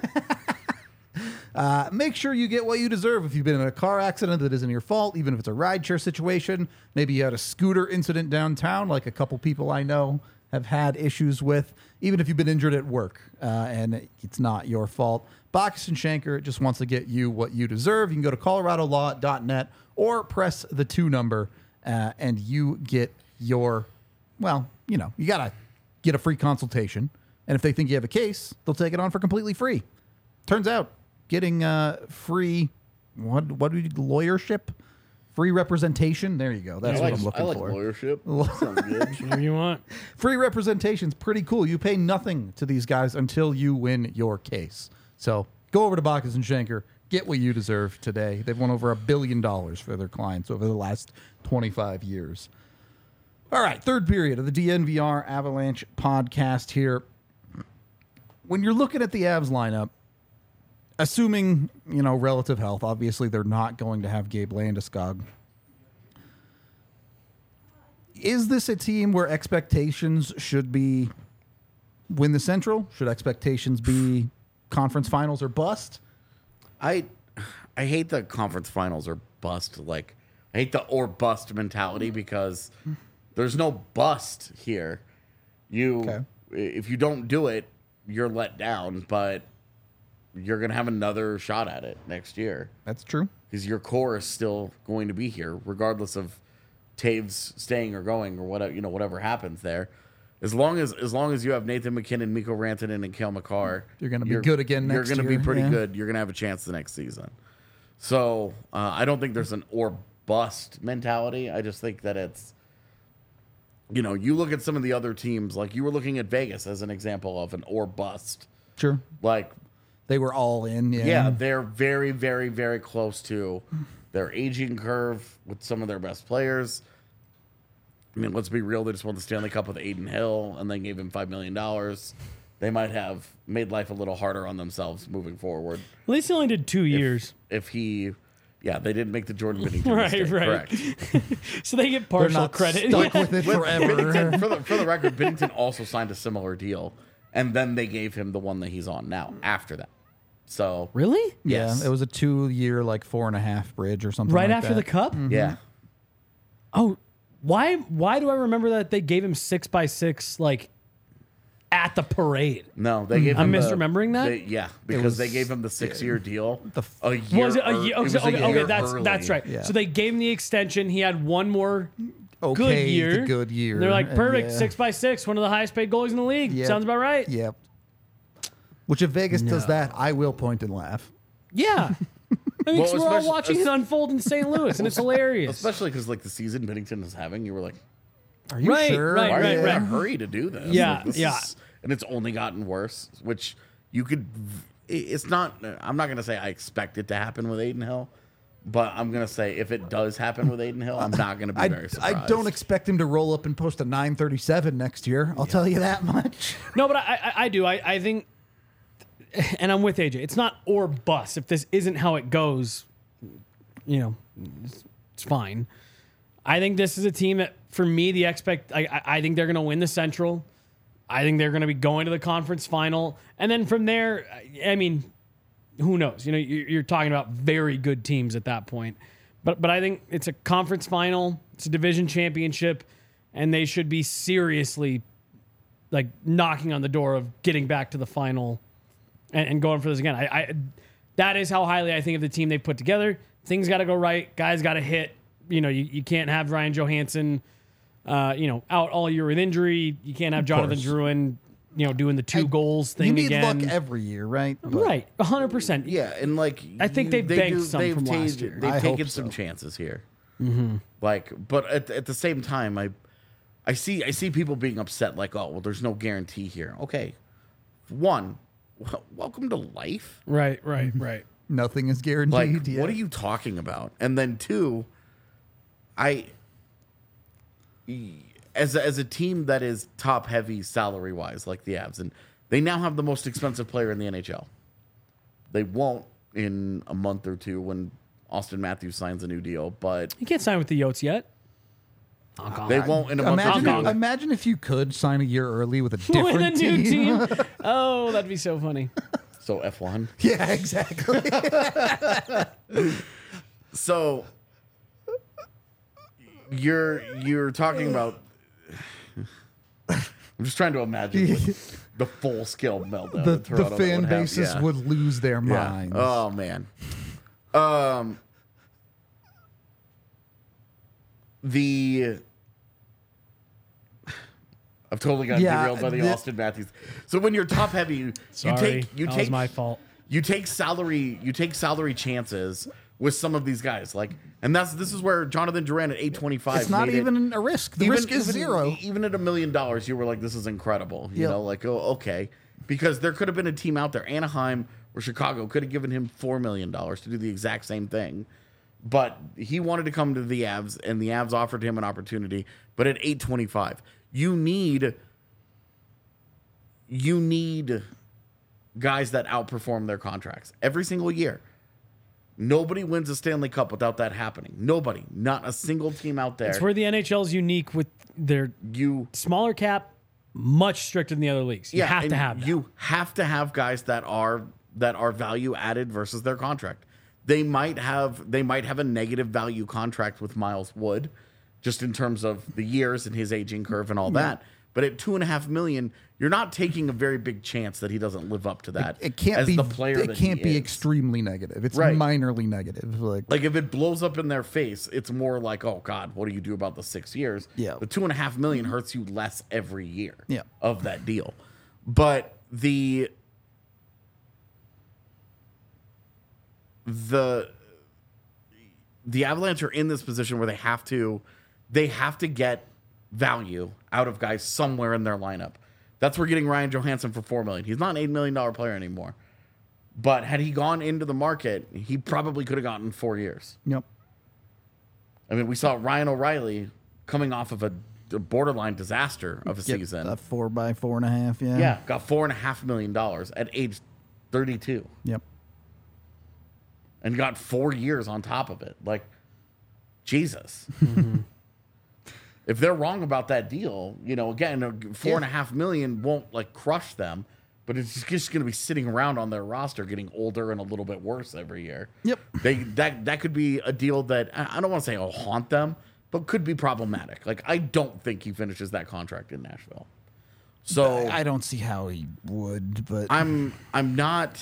Make sure you get what you deserve if you've been in a car accident that isn't your fault, even if it's a rideshare situation. Maybe you had a scooter incident downtown, like a couple people I know have had issues with, even if you've been injured at work and it's not your fault. Bacchus and Schenker just wants to get you what you deserve. You can go to coloradolaw.net or press the 2 number and you get your, you got to get a free consultation. And if they think you have a case, they'll take it on for completely free. Turns out getting free, what do you lawyership? Free representation. There you go. That's what I'm looking for. lawyership. Sounds good. Whatever you want. Free representation's pretty cool. You pay nothing to these guys until you win your case. So go over to Bacchus and Schenker. Get what you deserve today. They've won over $1 billion for their clients over the last 25 years. All right, third period of the DNVR Avalanche podcast here. When you're looking at the Avs lineup, assuming, relative health, obviously they're not going to have Gabe Landeskog. Is this a team where expectations should be win the Central? Should expectations be conference finals or bust? I hate the conference finals or bust. I hate the or bust mentality because there's no bust here. If you don't do it, you're let down, but you're going to have another shot at it next year. That's true. Because your core is still going to be here, regardless of Taves staying or going or whatever happens there. As long as you have Nathan McKinnon, Mikko Rantanen, and Cale Makar, You're gonna be good again next You're gonna be year, pretty yeah. good. You're gonna have a chance the next season. So I don't think there's an or bust mentality. I just think that it's, you look at some of the other teams, like you were looking at Vegas as an example of an or bust. Sure. Like, They were all in. yeah, they're very, very, very close to their aging curve with some of their best players. I mean, let's be real. They just won the Stanley Cup with Aiden Hill, and they gave him $5 million. They might have made life a little harder on themselves moving forward. At least he only did 2 years. If they didn't make the Jordan Binnington Right, mistake. right. Correct. So they get They're partial not credit. stuck with it forever. Binnington, for the record, Binnington also signed a similar deal, and then they gave him the one that he's on now after that. So Really? Yeah, Yes. it was a 2-year, like 4.5 bridge or something. Right like after that. the cup? yeah, Oh, why do I remember that they gave him 6x6 like at the parade? no, they gave I'm him misremembering that? because was- they gave him the 6-year deal. The A year. Was it a year? it was a Okay, year that's early. right. Yeah. So they gave him the extension. He had one more good Okay, year. the good year. They're like, And perfect, yeah. 6x6, one of the highest paid goalies in the league. Yep. Sounds about right. Yep. Which if Vegas does that, I will point and laugh. Yeah. I mean, 'cause we're all especially- watching it unfold in St. Louis, and it's hilarious. Especially because like the season Binnington is having, you were like, Are you Right, sure? right, why are right, you in right. a hurry to do this? Yeah, Like, this yeah. and it's only gotten worse. Which you could. It's not. I'm not going to say I expect it to happen with Aiden Hill, but I'm going to say if it does happen with Aiden Hill, I'm not going to be very surprised. I don't expect him to roll up and post a 937 next year. I'll tell you that much. No, but I do. I think, and I'm with AJ. It's not or bust. If this isn't how it goes, it's fine. I think this is a team that, for me, I think they're going to win the Central. I think they're going to be going to the conference final, and then from there, I mean, who knows? You're talking about very good teams at that point. But I think it's a conference final. It's a division championship, and they should be seriously like knocking on the door of getting back to the final and going for this again. I that is how highly I think of the team they've put together. Things got to go right. Guys got to hit. You can't have Ryan Johansson, out all year with injury. You can't have Jonathan course. Drouin, doing the 2 goals thing You need again. luck every year, right? But Right, 100%. Yeah, and like I think they've banked some from last year. They've I taken hope some so. chances here. Like, but at the same time, I see people being upset. Like, oh well, there's no guarantee here. Okay, one, welcome to life. Right. Nothing is Like, guaranteed. yet. what are you talking about? And then two, as a team that is top heavy salary wise, like the Avs, and they now have the most expensive player in the NHL. They won't in a month or two when Austin Matthews signs a new deal, but You can't sign with the Yotes yet. they won't in a month or two. Imagine if you could sign a year early with a With different a new team. team. Oh, that'd be so funny. So F1. Yeah, exactly. So you're talking about. I'm just trying to imagine the full scale meltdown. the that Toronto fan would have. bases Yeah. would lose their Yeah. minds. Oh man. I've totally got Yeah, derailed by the Austin Matthews. So when you're top heavy, you Sorry, take that was my fault. you take salary chances with some of these guys, like, and this is where Jonathan Drouin at 825. It's not made it- even a risk. The risk is zero. Even at $1 million, you were like, "This is incredible." You Yep. know, like, oh, okay, because there could have been a team out there, Anaheim or Chicago, could have given him $4 million to do the exact same thing, but he wanted to come to the Avs, and the Avs offered him an opportunity. But at 825, you need guys that outperform their contracts every single year. Nobody wins a Stanley Cup without that happening. Nobody, not a single team out there. It's where the NHL is unique with their you smaller cap, much stricter than the other leagues. You have and to have that. You have to have guys that are value added versus their contract. They might have a negative value contract with Miles Wood, just in terms of the years and his aging curve and all that. But at $2.5 million, you're not taking a very big chance that he doesn't live up to that. It can't as be the player. It that can't he be is. extremely negative. It's Right. minorly negative. Like if it blows up in their face, it's more like, oh God, what do you do about the 6 years? Yeah. The $2.5 million hurts you less every year. Yeah. Of that deal, but the Avalanche are in this position where they have to get value out of guys somewhere in their lineup. That's where getting Ryan Johansson for $4 million. He's not an $8 million player anymore. But had he gone into the market, he probably could have gotten 4 years. Yep. I mean, we saw Ryan O'Reilly coming off of a borderline disaster of a season. A 4 by 4.5. Yeah. Yeah, got $4.5 million at age 32. Yep. And got 4 years on top of it. Like, Jesus. If they're wrong about that deal, again, $4.5 million won't like crush them, but it's just going to be sitting around on their roster, getting older and a little bit worse every year. Yep. That could be a deal that I don't want to say will haunt them, but could be problematic. Like, I don't think he finishes that contract in Nashville. So I don't see how he would, but I'm not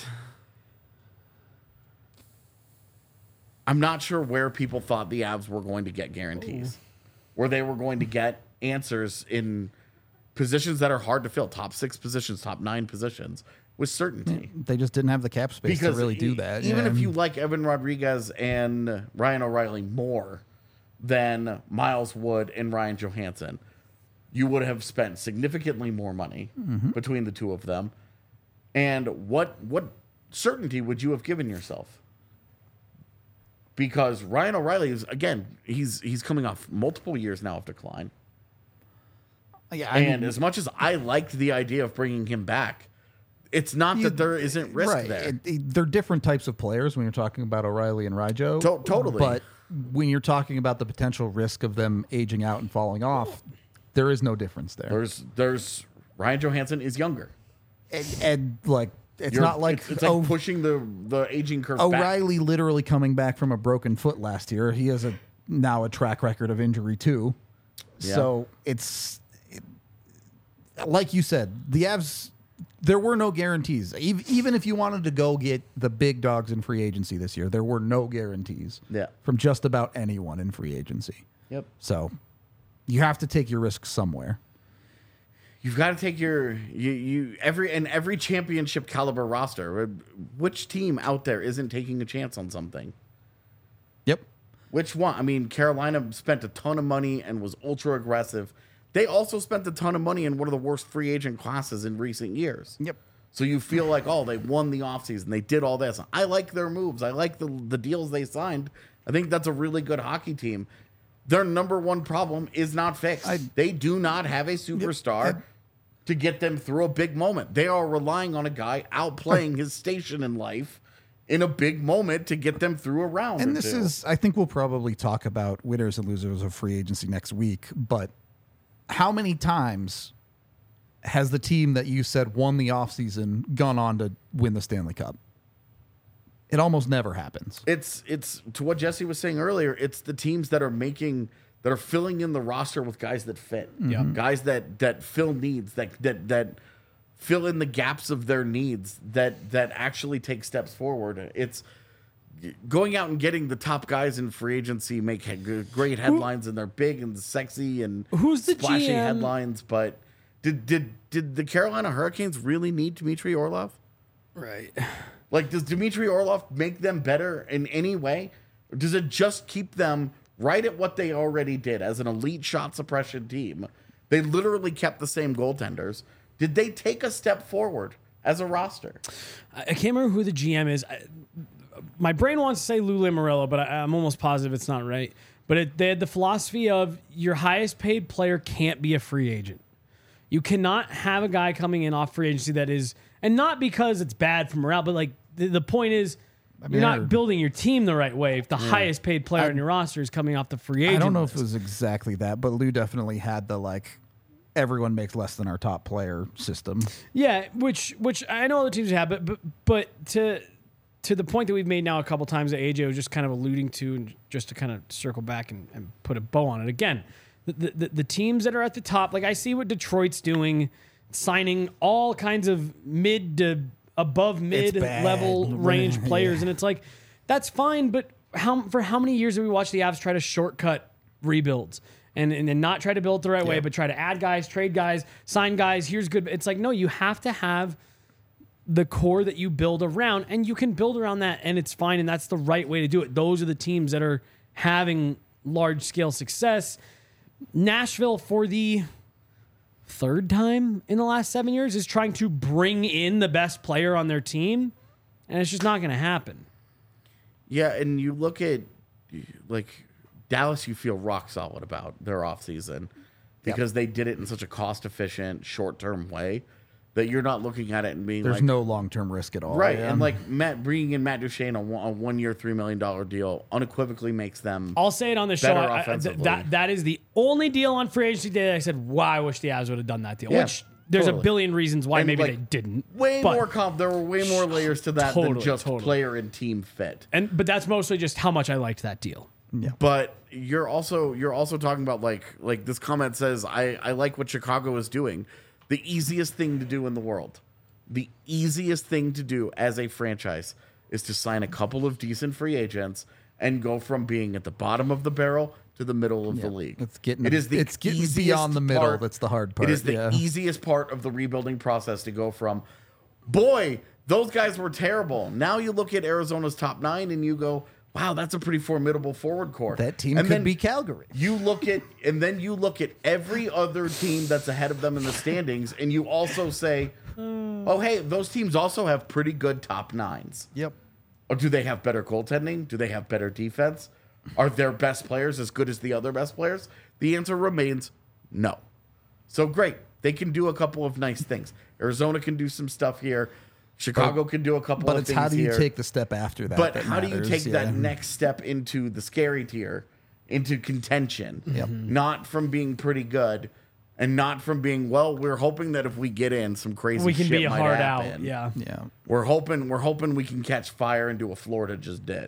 sure where people thought the Avs were going to get guarantees, where they were going to get answers in positions that are hard to fill, top 6 positions, top 9 positions, with certainty. they just didn't have the cap space to really do that. Even yeah. if you like Evan Rodriguez and Ryan O'Reilly more than Miles Wood and Ryan Johansson, you would have spent significantly more money between the two of them. And what certainty would you have given yourself? Because Ryan O'Reilly is, again, he's coming off multiple years now of decline. Yeah, And as much as I liked the idea of bringing him back, it's not that there isn't risk right. there. They're different types of players when you're talking about O'Reilly and Rijo. Totally. But when you're talking about the potential risk of them aging out and falling off, there is no difference there. There's Ryan Johansson is younger. And like, it's not like, it's like pushing the aging curve back. O'Reilly literally coming back from a broken foot last year. He has now a track record of injury too. Yeah. So like you said, the Avs, there were no guarantees. Even if you wanted to go get the big dogs in free agency this year, there were no guarantees from just about anyone in free agency. Yep. So you have to take your risks somewhere. You've got to take every championship caliber roster. Which team out there isn't taking a chance on something? Yep. Which one? I mean, Carolina spent a ton of money and was ultra aggressive. They also spent a ton of money in one of the worst free agent classes in recent years. Yep. So you feel like, oh, they won the offseason. They did all this. I like their moves. I like the deals they signed. I think that's a really good hockey team. Their number one problem is not fixed. They do not have a superstar to get them through a big moment. They are relying on a guy outplaying his station in life in a big moment to get them through a round. And this is, I think we'll probably talk about winners and losers of free agency next week, but how many times has the team that you said won the offseason gone on to win the Stanley Cup? It almost never happens. It's to what Jesse was saying earlier, it's the teams that are filling in the roster with guys that fit. Yeah. Guys that fill needs, that fill in the gaps of their needs, that actually take steps forward. It's going out and getting the top guys in free agency make great headlines, and they're big and sexy and Who's the splashy GM? headlines. But did the Carolina Hurricanes really need Dmitry Orlov? Right. Like, does Dmitry Orlov make them better in any way? Or does it just keep them right at what they already did as an elite shot suppression team? They literally kept the same goaltenders. Did they take a step forward as a roster? I can't remember who the GM is. My brain wants to say Lou Lamoriello, but I'm almost positive it's not right. But they had the philosophy of your highest paid player can't be a free agent. You cannot have a guy coming in off free agency that is, and not because it's bad for morale, but like the point is, you're not building your team the right way if the highest paid player on your roster is coming off the free agent I don't know list. if it was exactly that, but Lou definitely had the everyone makes less than our top player system. Yeah, which I know other teams have, but to the point that we've made now a couple times that AJ was just kind of alluding to, and just to kind of circle back and put a bow on it again, the teams that are at the top. Like I see what Detroit's doing, signing all kinds of mid to above mid bad. level range Yeah. players, and it's like that's fine. But for how many years have we watched the Avs try to shortcut rebuilds and not try to build it the right way, but try to add guys, trade guys, sign guys? Here's good. It's like no, you have to have the core that you build around, and you can build around that, and it's fine, and that's the right way to do it. Those are the teams that are having large scale success. Nashville, for the third time in the last 7 years, is trying to bring in the best player on their team, and it's just not going to happen. Yeah, and you look at like Dallas, you feel rock solid about their offseason because they did it in such a cost efficient, short term way that you're not looking at it and being There's like, no long-term risk at all. right. Yeah. And like bringing in Matt Duchene, a 1 year, $3 million deal unequivocally makes them. I'll say it on the show. Better offensively. That is the only deal on free agency day that I said, wow, I wish the Avs would have done that deal. Yeah, Which there's totally. a billion reasons why And, maybe like, they didn't. Way but- more there were way more layers to that than Totally, just totally. player and team fit. But that's mostly just how much I liked that deal. But you're also talking about like this comment says, I like what Chicago is doing. The easiest thing to do in the world. The easiest thing to do as a franchise is to sign a couple of decent free agents and go from being at the bottom of the barrel to the middle of the league. It's getting easiest beyond the middle. part- That's the hard part. It is the yeah. easiest part of the rebuilding process to go from, boy, those guys were terrible. Now you look at Arizona's top 9 and you go, wow, that's a pretty formidable forward core. That team And could then be Calgary. You look at every other team that's ahead of them in the standings, and you also say, oh, hey, those teams also have pretty good top 9s. Yep. Or do they have better goaltending? Do they have better defense? Are their best players as good as the other best players? The answer remains no. So great. They can do a couple of nice things. Arizona can do some stuff here. Chicago can do a couple But of it's things how do you here. take the step after that? But that how do you matters, take yeah. that next step into the scary tier, into contention? Yep. Not from being pretty good and not from being, well, we're hoping that if we get in, some crazy We can shit be a might hard happen. out. Yeah. Yeah. We're hoping we can catch fire and do what Florida just did.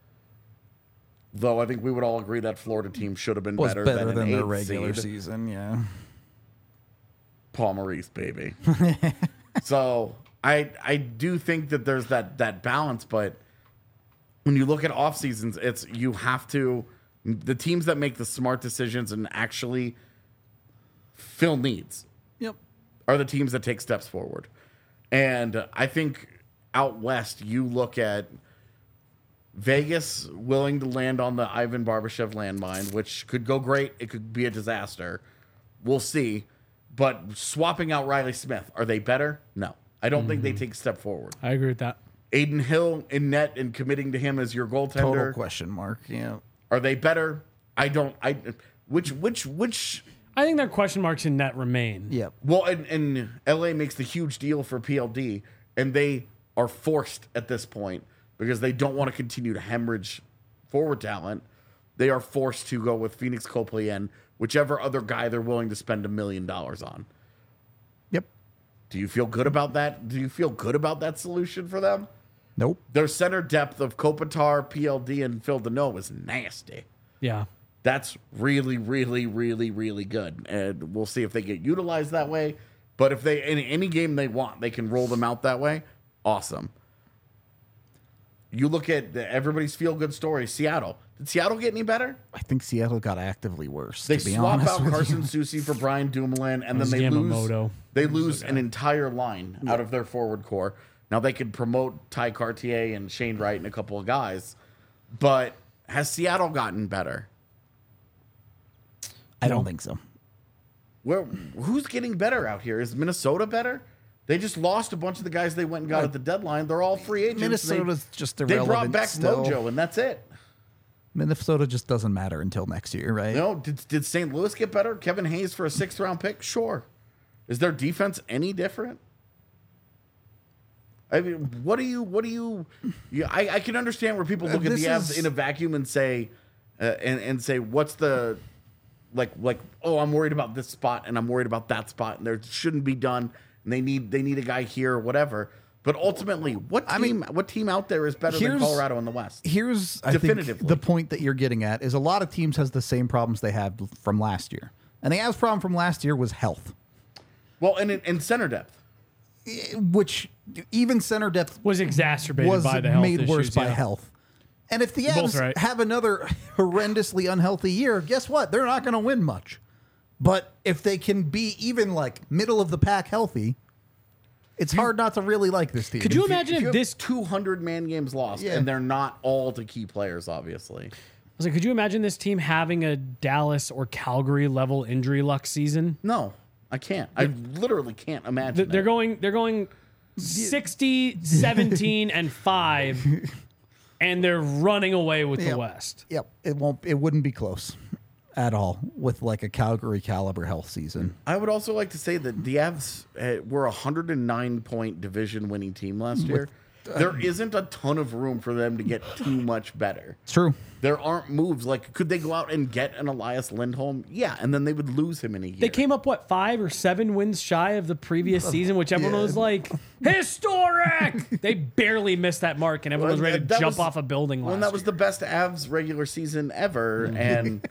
Though I think we would all agree that Florida team should have been Was better, better than than an their 8th regular seed. season. Yeah. Paul Maurice, baby. So I do think that there's that balance, but when you look at off seasons, it's you have to the teams that make the smart decisions and actually fill needs Yep. are the teams that take steps forward. And I think out west, you look at Vegas willing to land on the Ivan Barbashev landmine, which could go great. It could be a disaster. We'll see. But swapping out Riley Smith, are they better? No. I don't think they take a step forward. I agree with that. Aiden Hill in net and committing to him as your goaltender. Total question mark. Yeah. Are they better? I don't. Which I think their question marks in net remain. Yep. Well, and LA makes the huge deal for PLD, and they are forced at this point because they don't want to continue to hemorrhage forward talent. They are forced to go with Phoenix Copley and whichever other guy they're willing to spend $1 million on. Yep. Do you feel good about that? Do you feel good about that solution for them? Nope. Their center depth of Kopitar, PLD, and Phil Deneau is nasty. Yeah. That's really, really, really, really good. And we'll see if they get utilized that way. But if they, in any game they want, they can roll them out that way. Awesome. You look at everybody's feel-good story. Seattle. Did Seattle get any better? I think Seattle got actively worse. They to be swap honest out with Carson you. Soucy for Brian Dumoulin, and then That's they Yamamoto. lose an entire line out of their forward core. Now they could promote Ty Cartier and Shane Wright and a couple of guys, but has Seattle gotten better? I don't think so. Who's getting better out here? Is Minnesota better? They just lost a bunch of the guys they went and got at the deadline. They're all free agents. Minnesota's just They irrelevant. brought back still. Mojo, and that's it. Minnesota just doesn't matter until next year, right? No, did St. Louis get better? Kevin Hayes for a 6th round pick? Sure. Is their defense any different? I mean, what do you? Yeah, I can understand where people look at This the Avs is- in a vacuum and say, and say, what's the like? Oh, I'm worried about this spot and I'm worried about that spot, and there shouldn't be done. And they need a guy here or whatever. But ultimately, what team out there is better than here's- Colorado in the West? Here's, I think, Definitively. the point that you're getting at is a lot of teams has the same problems they had from last year. And the Avs' problem from last year was health, Well, and center depth. which even center depth Was exacerbated was by the health made worse issues, by yeah. health. And if the You're both Avs right. have another horrendously unhealthy year, guess what? They're not going to win much. But if they can be even like middle of the pack healthy, it's hard not to really like this team. Could you imagine If if you have this? 200 man games lost, Yeah. and they're not all to key players, obviously. I was like, could you imagine this team having a Dallas or Calgary level injury luck season? No, I can't. I literally can't imagine. They're that. going 60, 17, and 5, and they're running away with the Yep. West. Yep, it wouldn't be close at all with like a Calgary caliber health season. I would also like to say that the Avs were a 109-point division-winning team last year. There isn't a ton of room for them to get too much better. It's true. There aren't moves like could they go out and get an Elias Lindholm? Yeah, and then they would lose him in a year. They came up, 5 or 7 wins shy of the previous season, which everyone was like, historic! They barely missed that mark, and everyone was ready to That jump was- off a building last Well, that was year. the best Avs regular season ever, and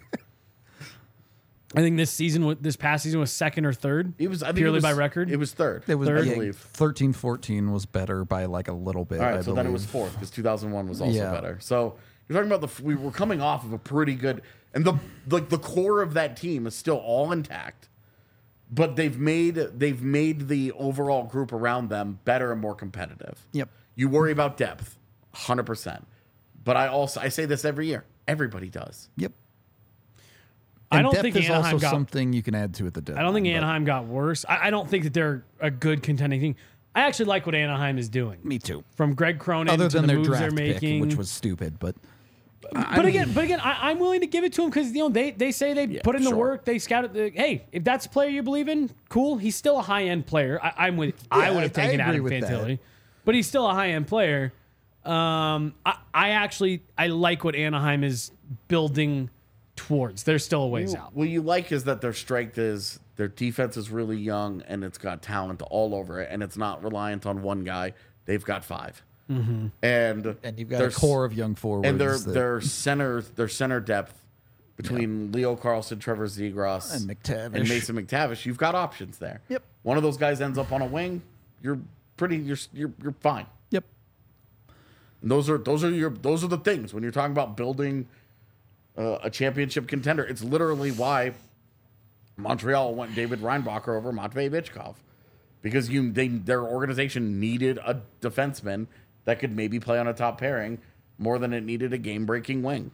I think this past season was second or third. it was I think purely it was, by record. It was third. It was I Third? believe. 13-14 was better by like a little bit. All right, I so then it believe. was fourth because 2001 was also Yeah. better. So you're talking about we were coming off of a pretty good, and the core of that team is still all intact, but they've made the overall group around them better and more competitive. Yep. You worry about depth, 100%, but I say this every year. Everybody does. Yep. I And don't depth think is Anaheim also got. something you can add to at the deadline. I don't think but Anaheim got worse. I don't think that they're a good contending team. I actually like what Anaheim is doing. Me too. From Greg Cronin Other to than the their moves they're draft pick, making, which was stupid, but But again, I'm willing to give it to him because they say they put in the sure. work, they scouted. Hey, if that's a player you believe in, cool. He's still a high end player. I would have taken I agree Adam with that. Fantilli, but he's still a high end player. I like what Anaheim is building towards. They're still a ways out. What you like is that their strength is their defense is really young and it's got talent all over it, and it's not reliant on one guy. They've got 5, and you've got their a core of young forwards. and that- their center depth between Leo Carlson, Trevor Zegras, And McTavish. and Mason McTavish. You've got options there. Yep. One of those guys ends up on a wing. You're fine. Yep. And those are the things when you're talking about building a championship contender. It's literally why Montreal went David Reinbacher over Matvei Bichkov, because their organization needed a defenseman that could maybe play on a top pairing more than it needed a game-breaking wing.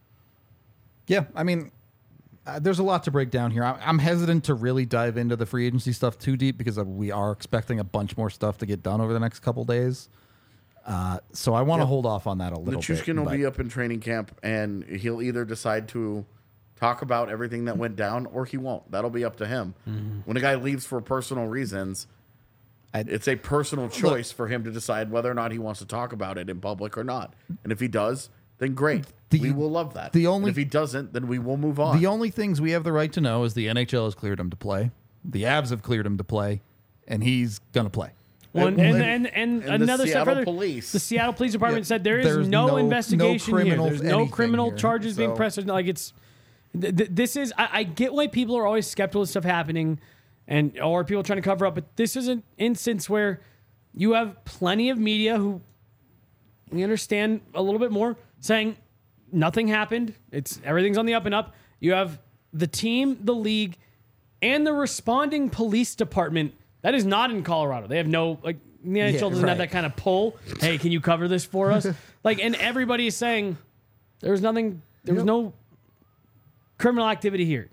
Yeah, I mean, there's a lot to break down here. I'm hesitant to really dive into the free agency stuff too deep because we are expecting a bunch more stuff to get done over the next couple days. So I want to hold off on that a little bit. Nichushkin will but- be up in training camp, and he'll either decide to talk about everything that went down or he won't. That'll be up to him. When a guy leaves for personal reasons, it's a personal choice for him to decide whether or not he wants to talk about it in public or not. And if he does, then great. We will love that. And if he doesn't, then we will move on. The only things we have the right to know is the NHL has cleared him to play, the Avs have cleared him to play, and he's gonna play. And the another step Seattle further, police. the Seattle Police Department Yep. said there is There's no no investigation here. criminal There's no anything criminal here. charges being So- pressed. Like it's this is. I get why people are always skeptical of stuff happening, or people trying to cover up. But this is an instance where you have plenty of media who we understand a little bit more saying nothing happened. Everything's on the up and up. You have the team, the league, and the responding police department. That is not in Colorado. They have no the NHL doesn't have right. that kind of pull. Hey, can you cover this for us? And everybody is saying there was nothing. There was no criminal activity here.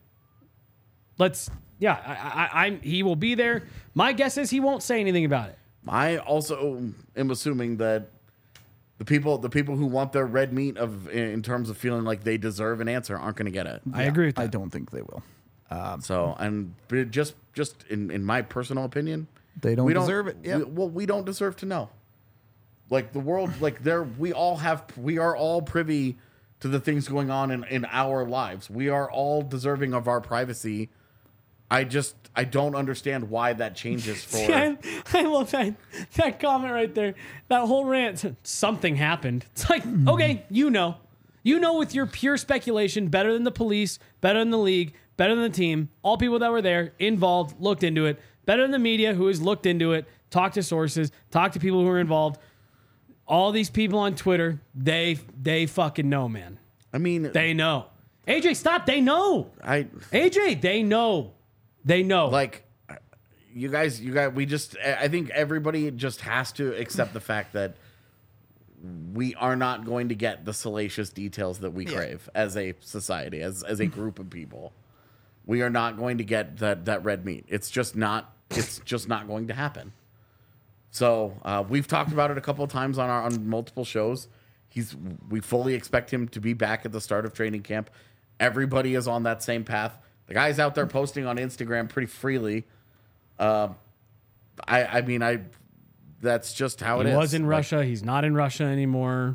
He will be there. My guess is he won't say anything about it. I also am assuming that the people who want their red meat in terms of feeling like they deserve an answer aren't going to get it. I agree with that. I don't think they will. So, and just in my personal opinion, They don't we deserve it. Yep. we don't deserve to know. Like the world, we are all privy to the things going on in our lives. We are all deserving of our privacy I don't understand why that changes for. I love that comment right there. That whole rant. Something happened. It's like, okay, you know with your pure speculation, better than the police, better than the league, better than the team, all people that were there, involved, looked into it, better than the media who has looked into it, talked to sources, talked to people who are involved. All these people on Twitter, they fucking know, man. I mean, They know. AJ, stop. They know. AJ, they know. They know. Like, you guys, I think everybody just has to accept the fact that we are not going to get the salacious details that we crave as a society, as a group of people. We are not going to get that red meat. It's just not going to happen. So we've talked about it a couple of times on multiple shows. We fully expect him to be back at the start of training camp. Everybody is on that same path. The guy's out there posting on Instagram pretty freely. I mean, that's just how it is. He was in Russia. He's not in Russia anymore.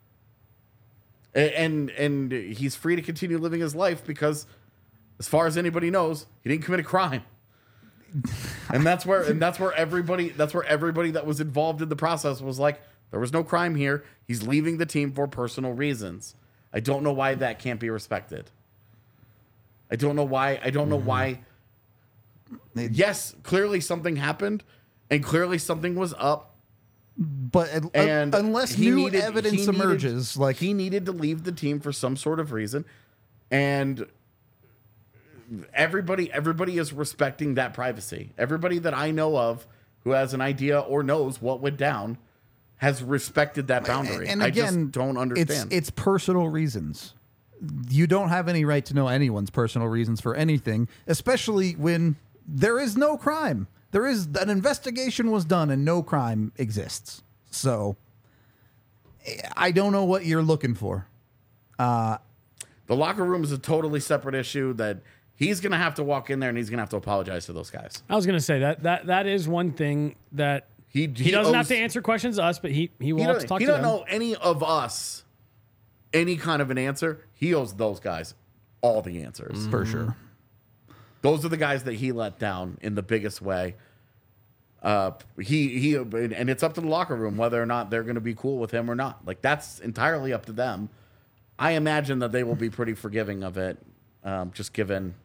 And he's free to continue living his life because, as far as anybody knows, he didn't commit a crime. And that's where everybody that was involved in the process was like, there was no crime here. He's leaving the team for personal reasons. I don't know why that can't be respected. I don't know why. Yes, clearly something happened, and clearly something was up. But unless evidence emerges, like he needed to leave the team for some sort of reason, and everybody is respecting that privacy. Everybody that I know of who has an idea or knows what went down has respected that boundary. And again, I just again, don't understand. It's personal reasons. You don't have any right to know anyone's personal reasons for anything, especially when there is no crime. There is an investigation was done and no crime exists. So I don't know what you're looking for. The locker room is a totally separate issue that he's going to have to walk in there and he's going to have to apologize to those guys. I was going to say that is one thing that he doesn't have to answer questions to us, but he will have to talk to them. He don't know any of us any kind of an answer. He owes those guys all the answers. For sure. Those are the guys that he let down in the biggest way. And it's up to the locker room whether or not they're going to be cool with him or not. Like, that's entirely up to them. I imagine that they will be pretty forgiving of it, just given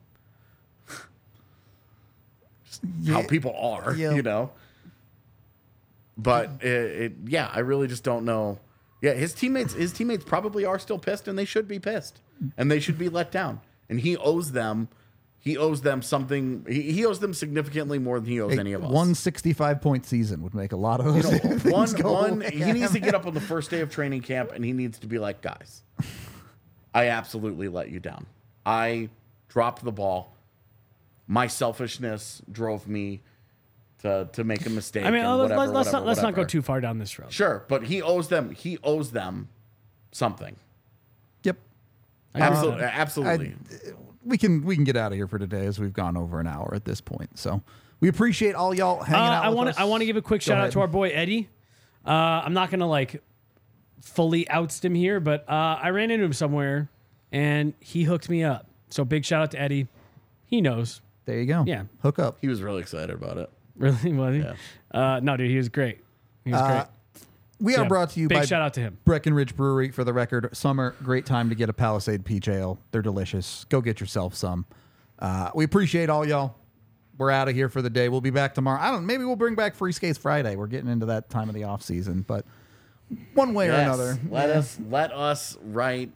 how people are, you know. But I really just don't know. Yeah, his teammates probably are still pissed, and they should be pissed, and they should be let down. And he owes them something. He owes them significantly more than he owes any of us. 165-point season would make a lot of things go away. He needs to get up on the first day of training camp, and he needs to be like, guys, I absolutely let you down. I dropped the ball. My selfishness drove me to make a mistake. I mean, let's not go whatever. too far down this road. Sure, but he owes them something. Yep. Absolutely. We can get out of here for today as we've gone over an hour at this point. So we appreciate all y'all hanging out with us. I want to give a quick shout out to our boy Eddie. I'm not going to fully oust him here, but I ran into him somewhere and he hooked me up. So big shout out to Eddie. He knows. There you go. Yeah. Hook up. He was really excited about it. Really? Was he? Yeah. No, dude, he was great. He was great. We are brought to you big by shout out to him. Breckenridge Brewery. For the record, summer, great time to get a Palisade Peach Ale. They're delicious. Go get yourself some. We appreciate all y'all. We're out of here for the day. We'll be back tomorrow. Maybe we'll bring back Free Skates Friday. We're getting into that time of the off season, but one way or another. Let us write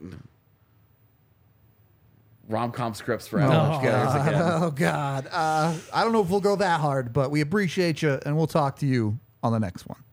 rom-com scripts for Avalanche guys again. Oh God. I don't know if we'll go that hard, but we appreciate you, and we'll talk to you on the next one.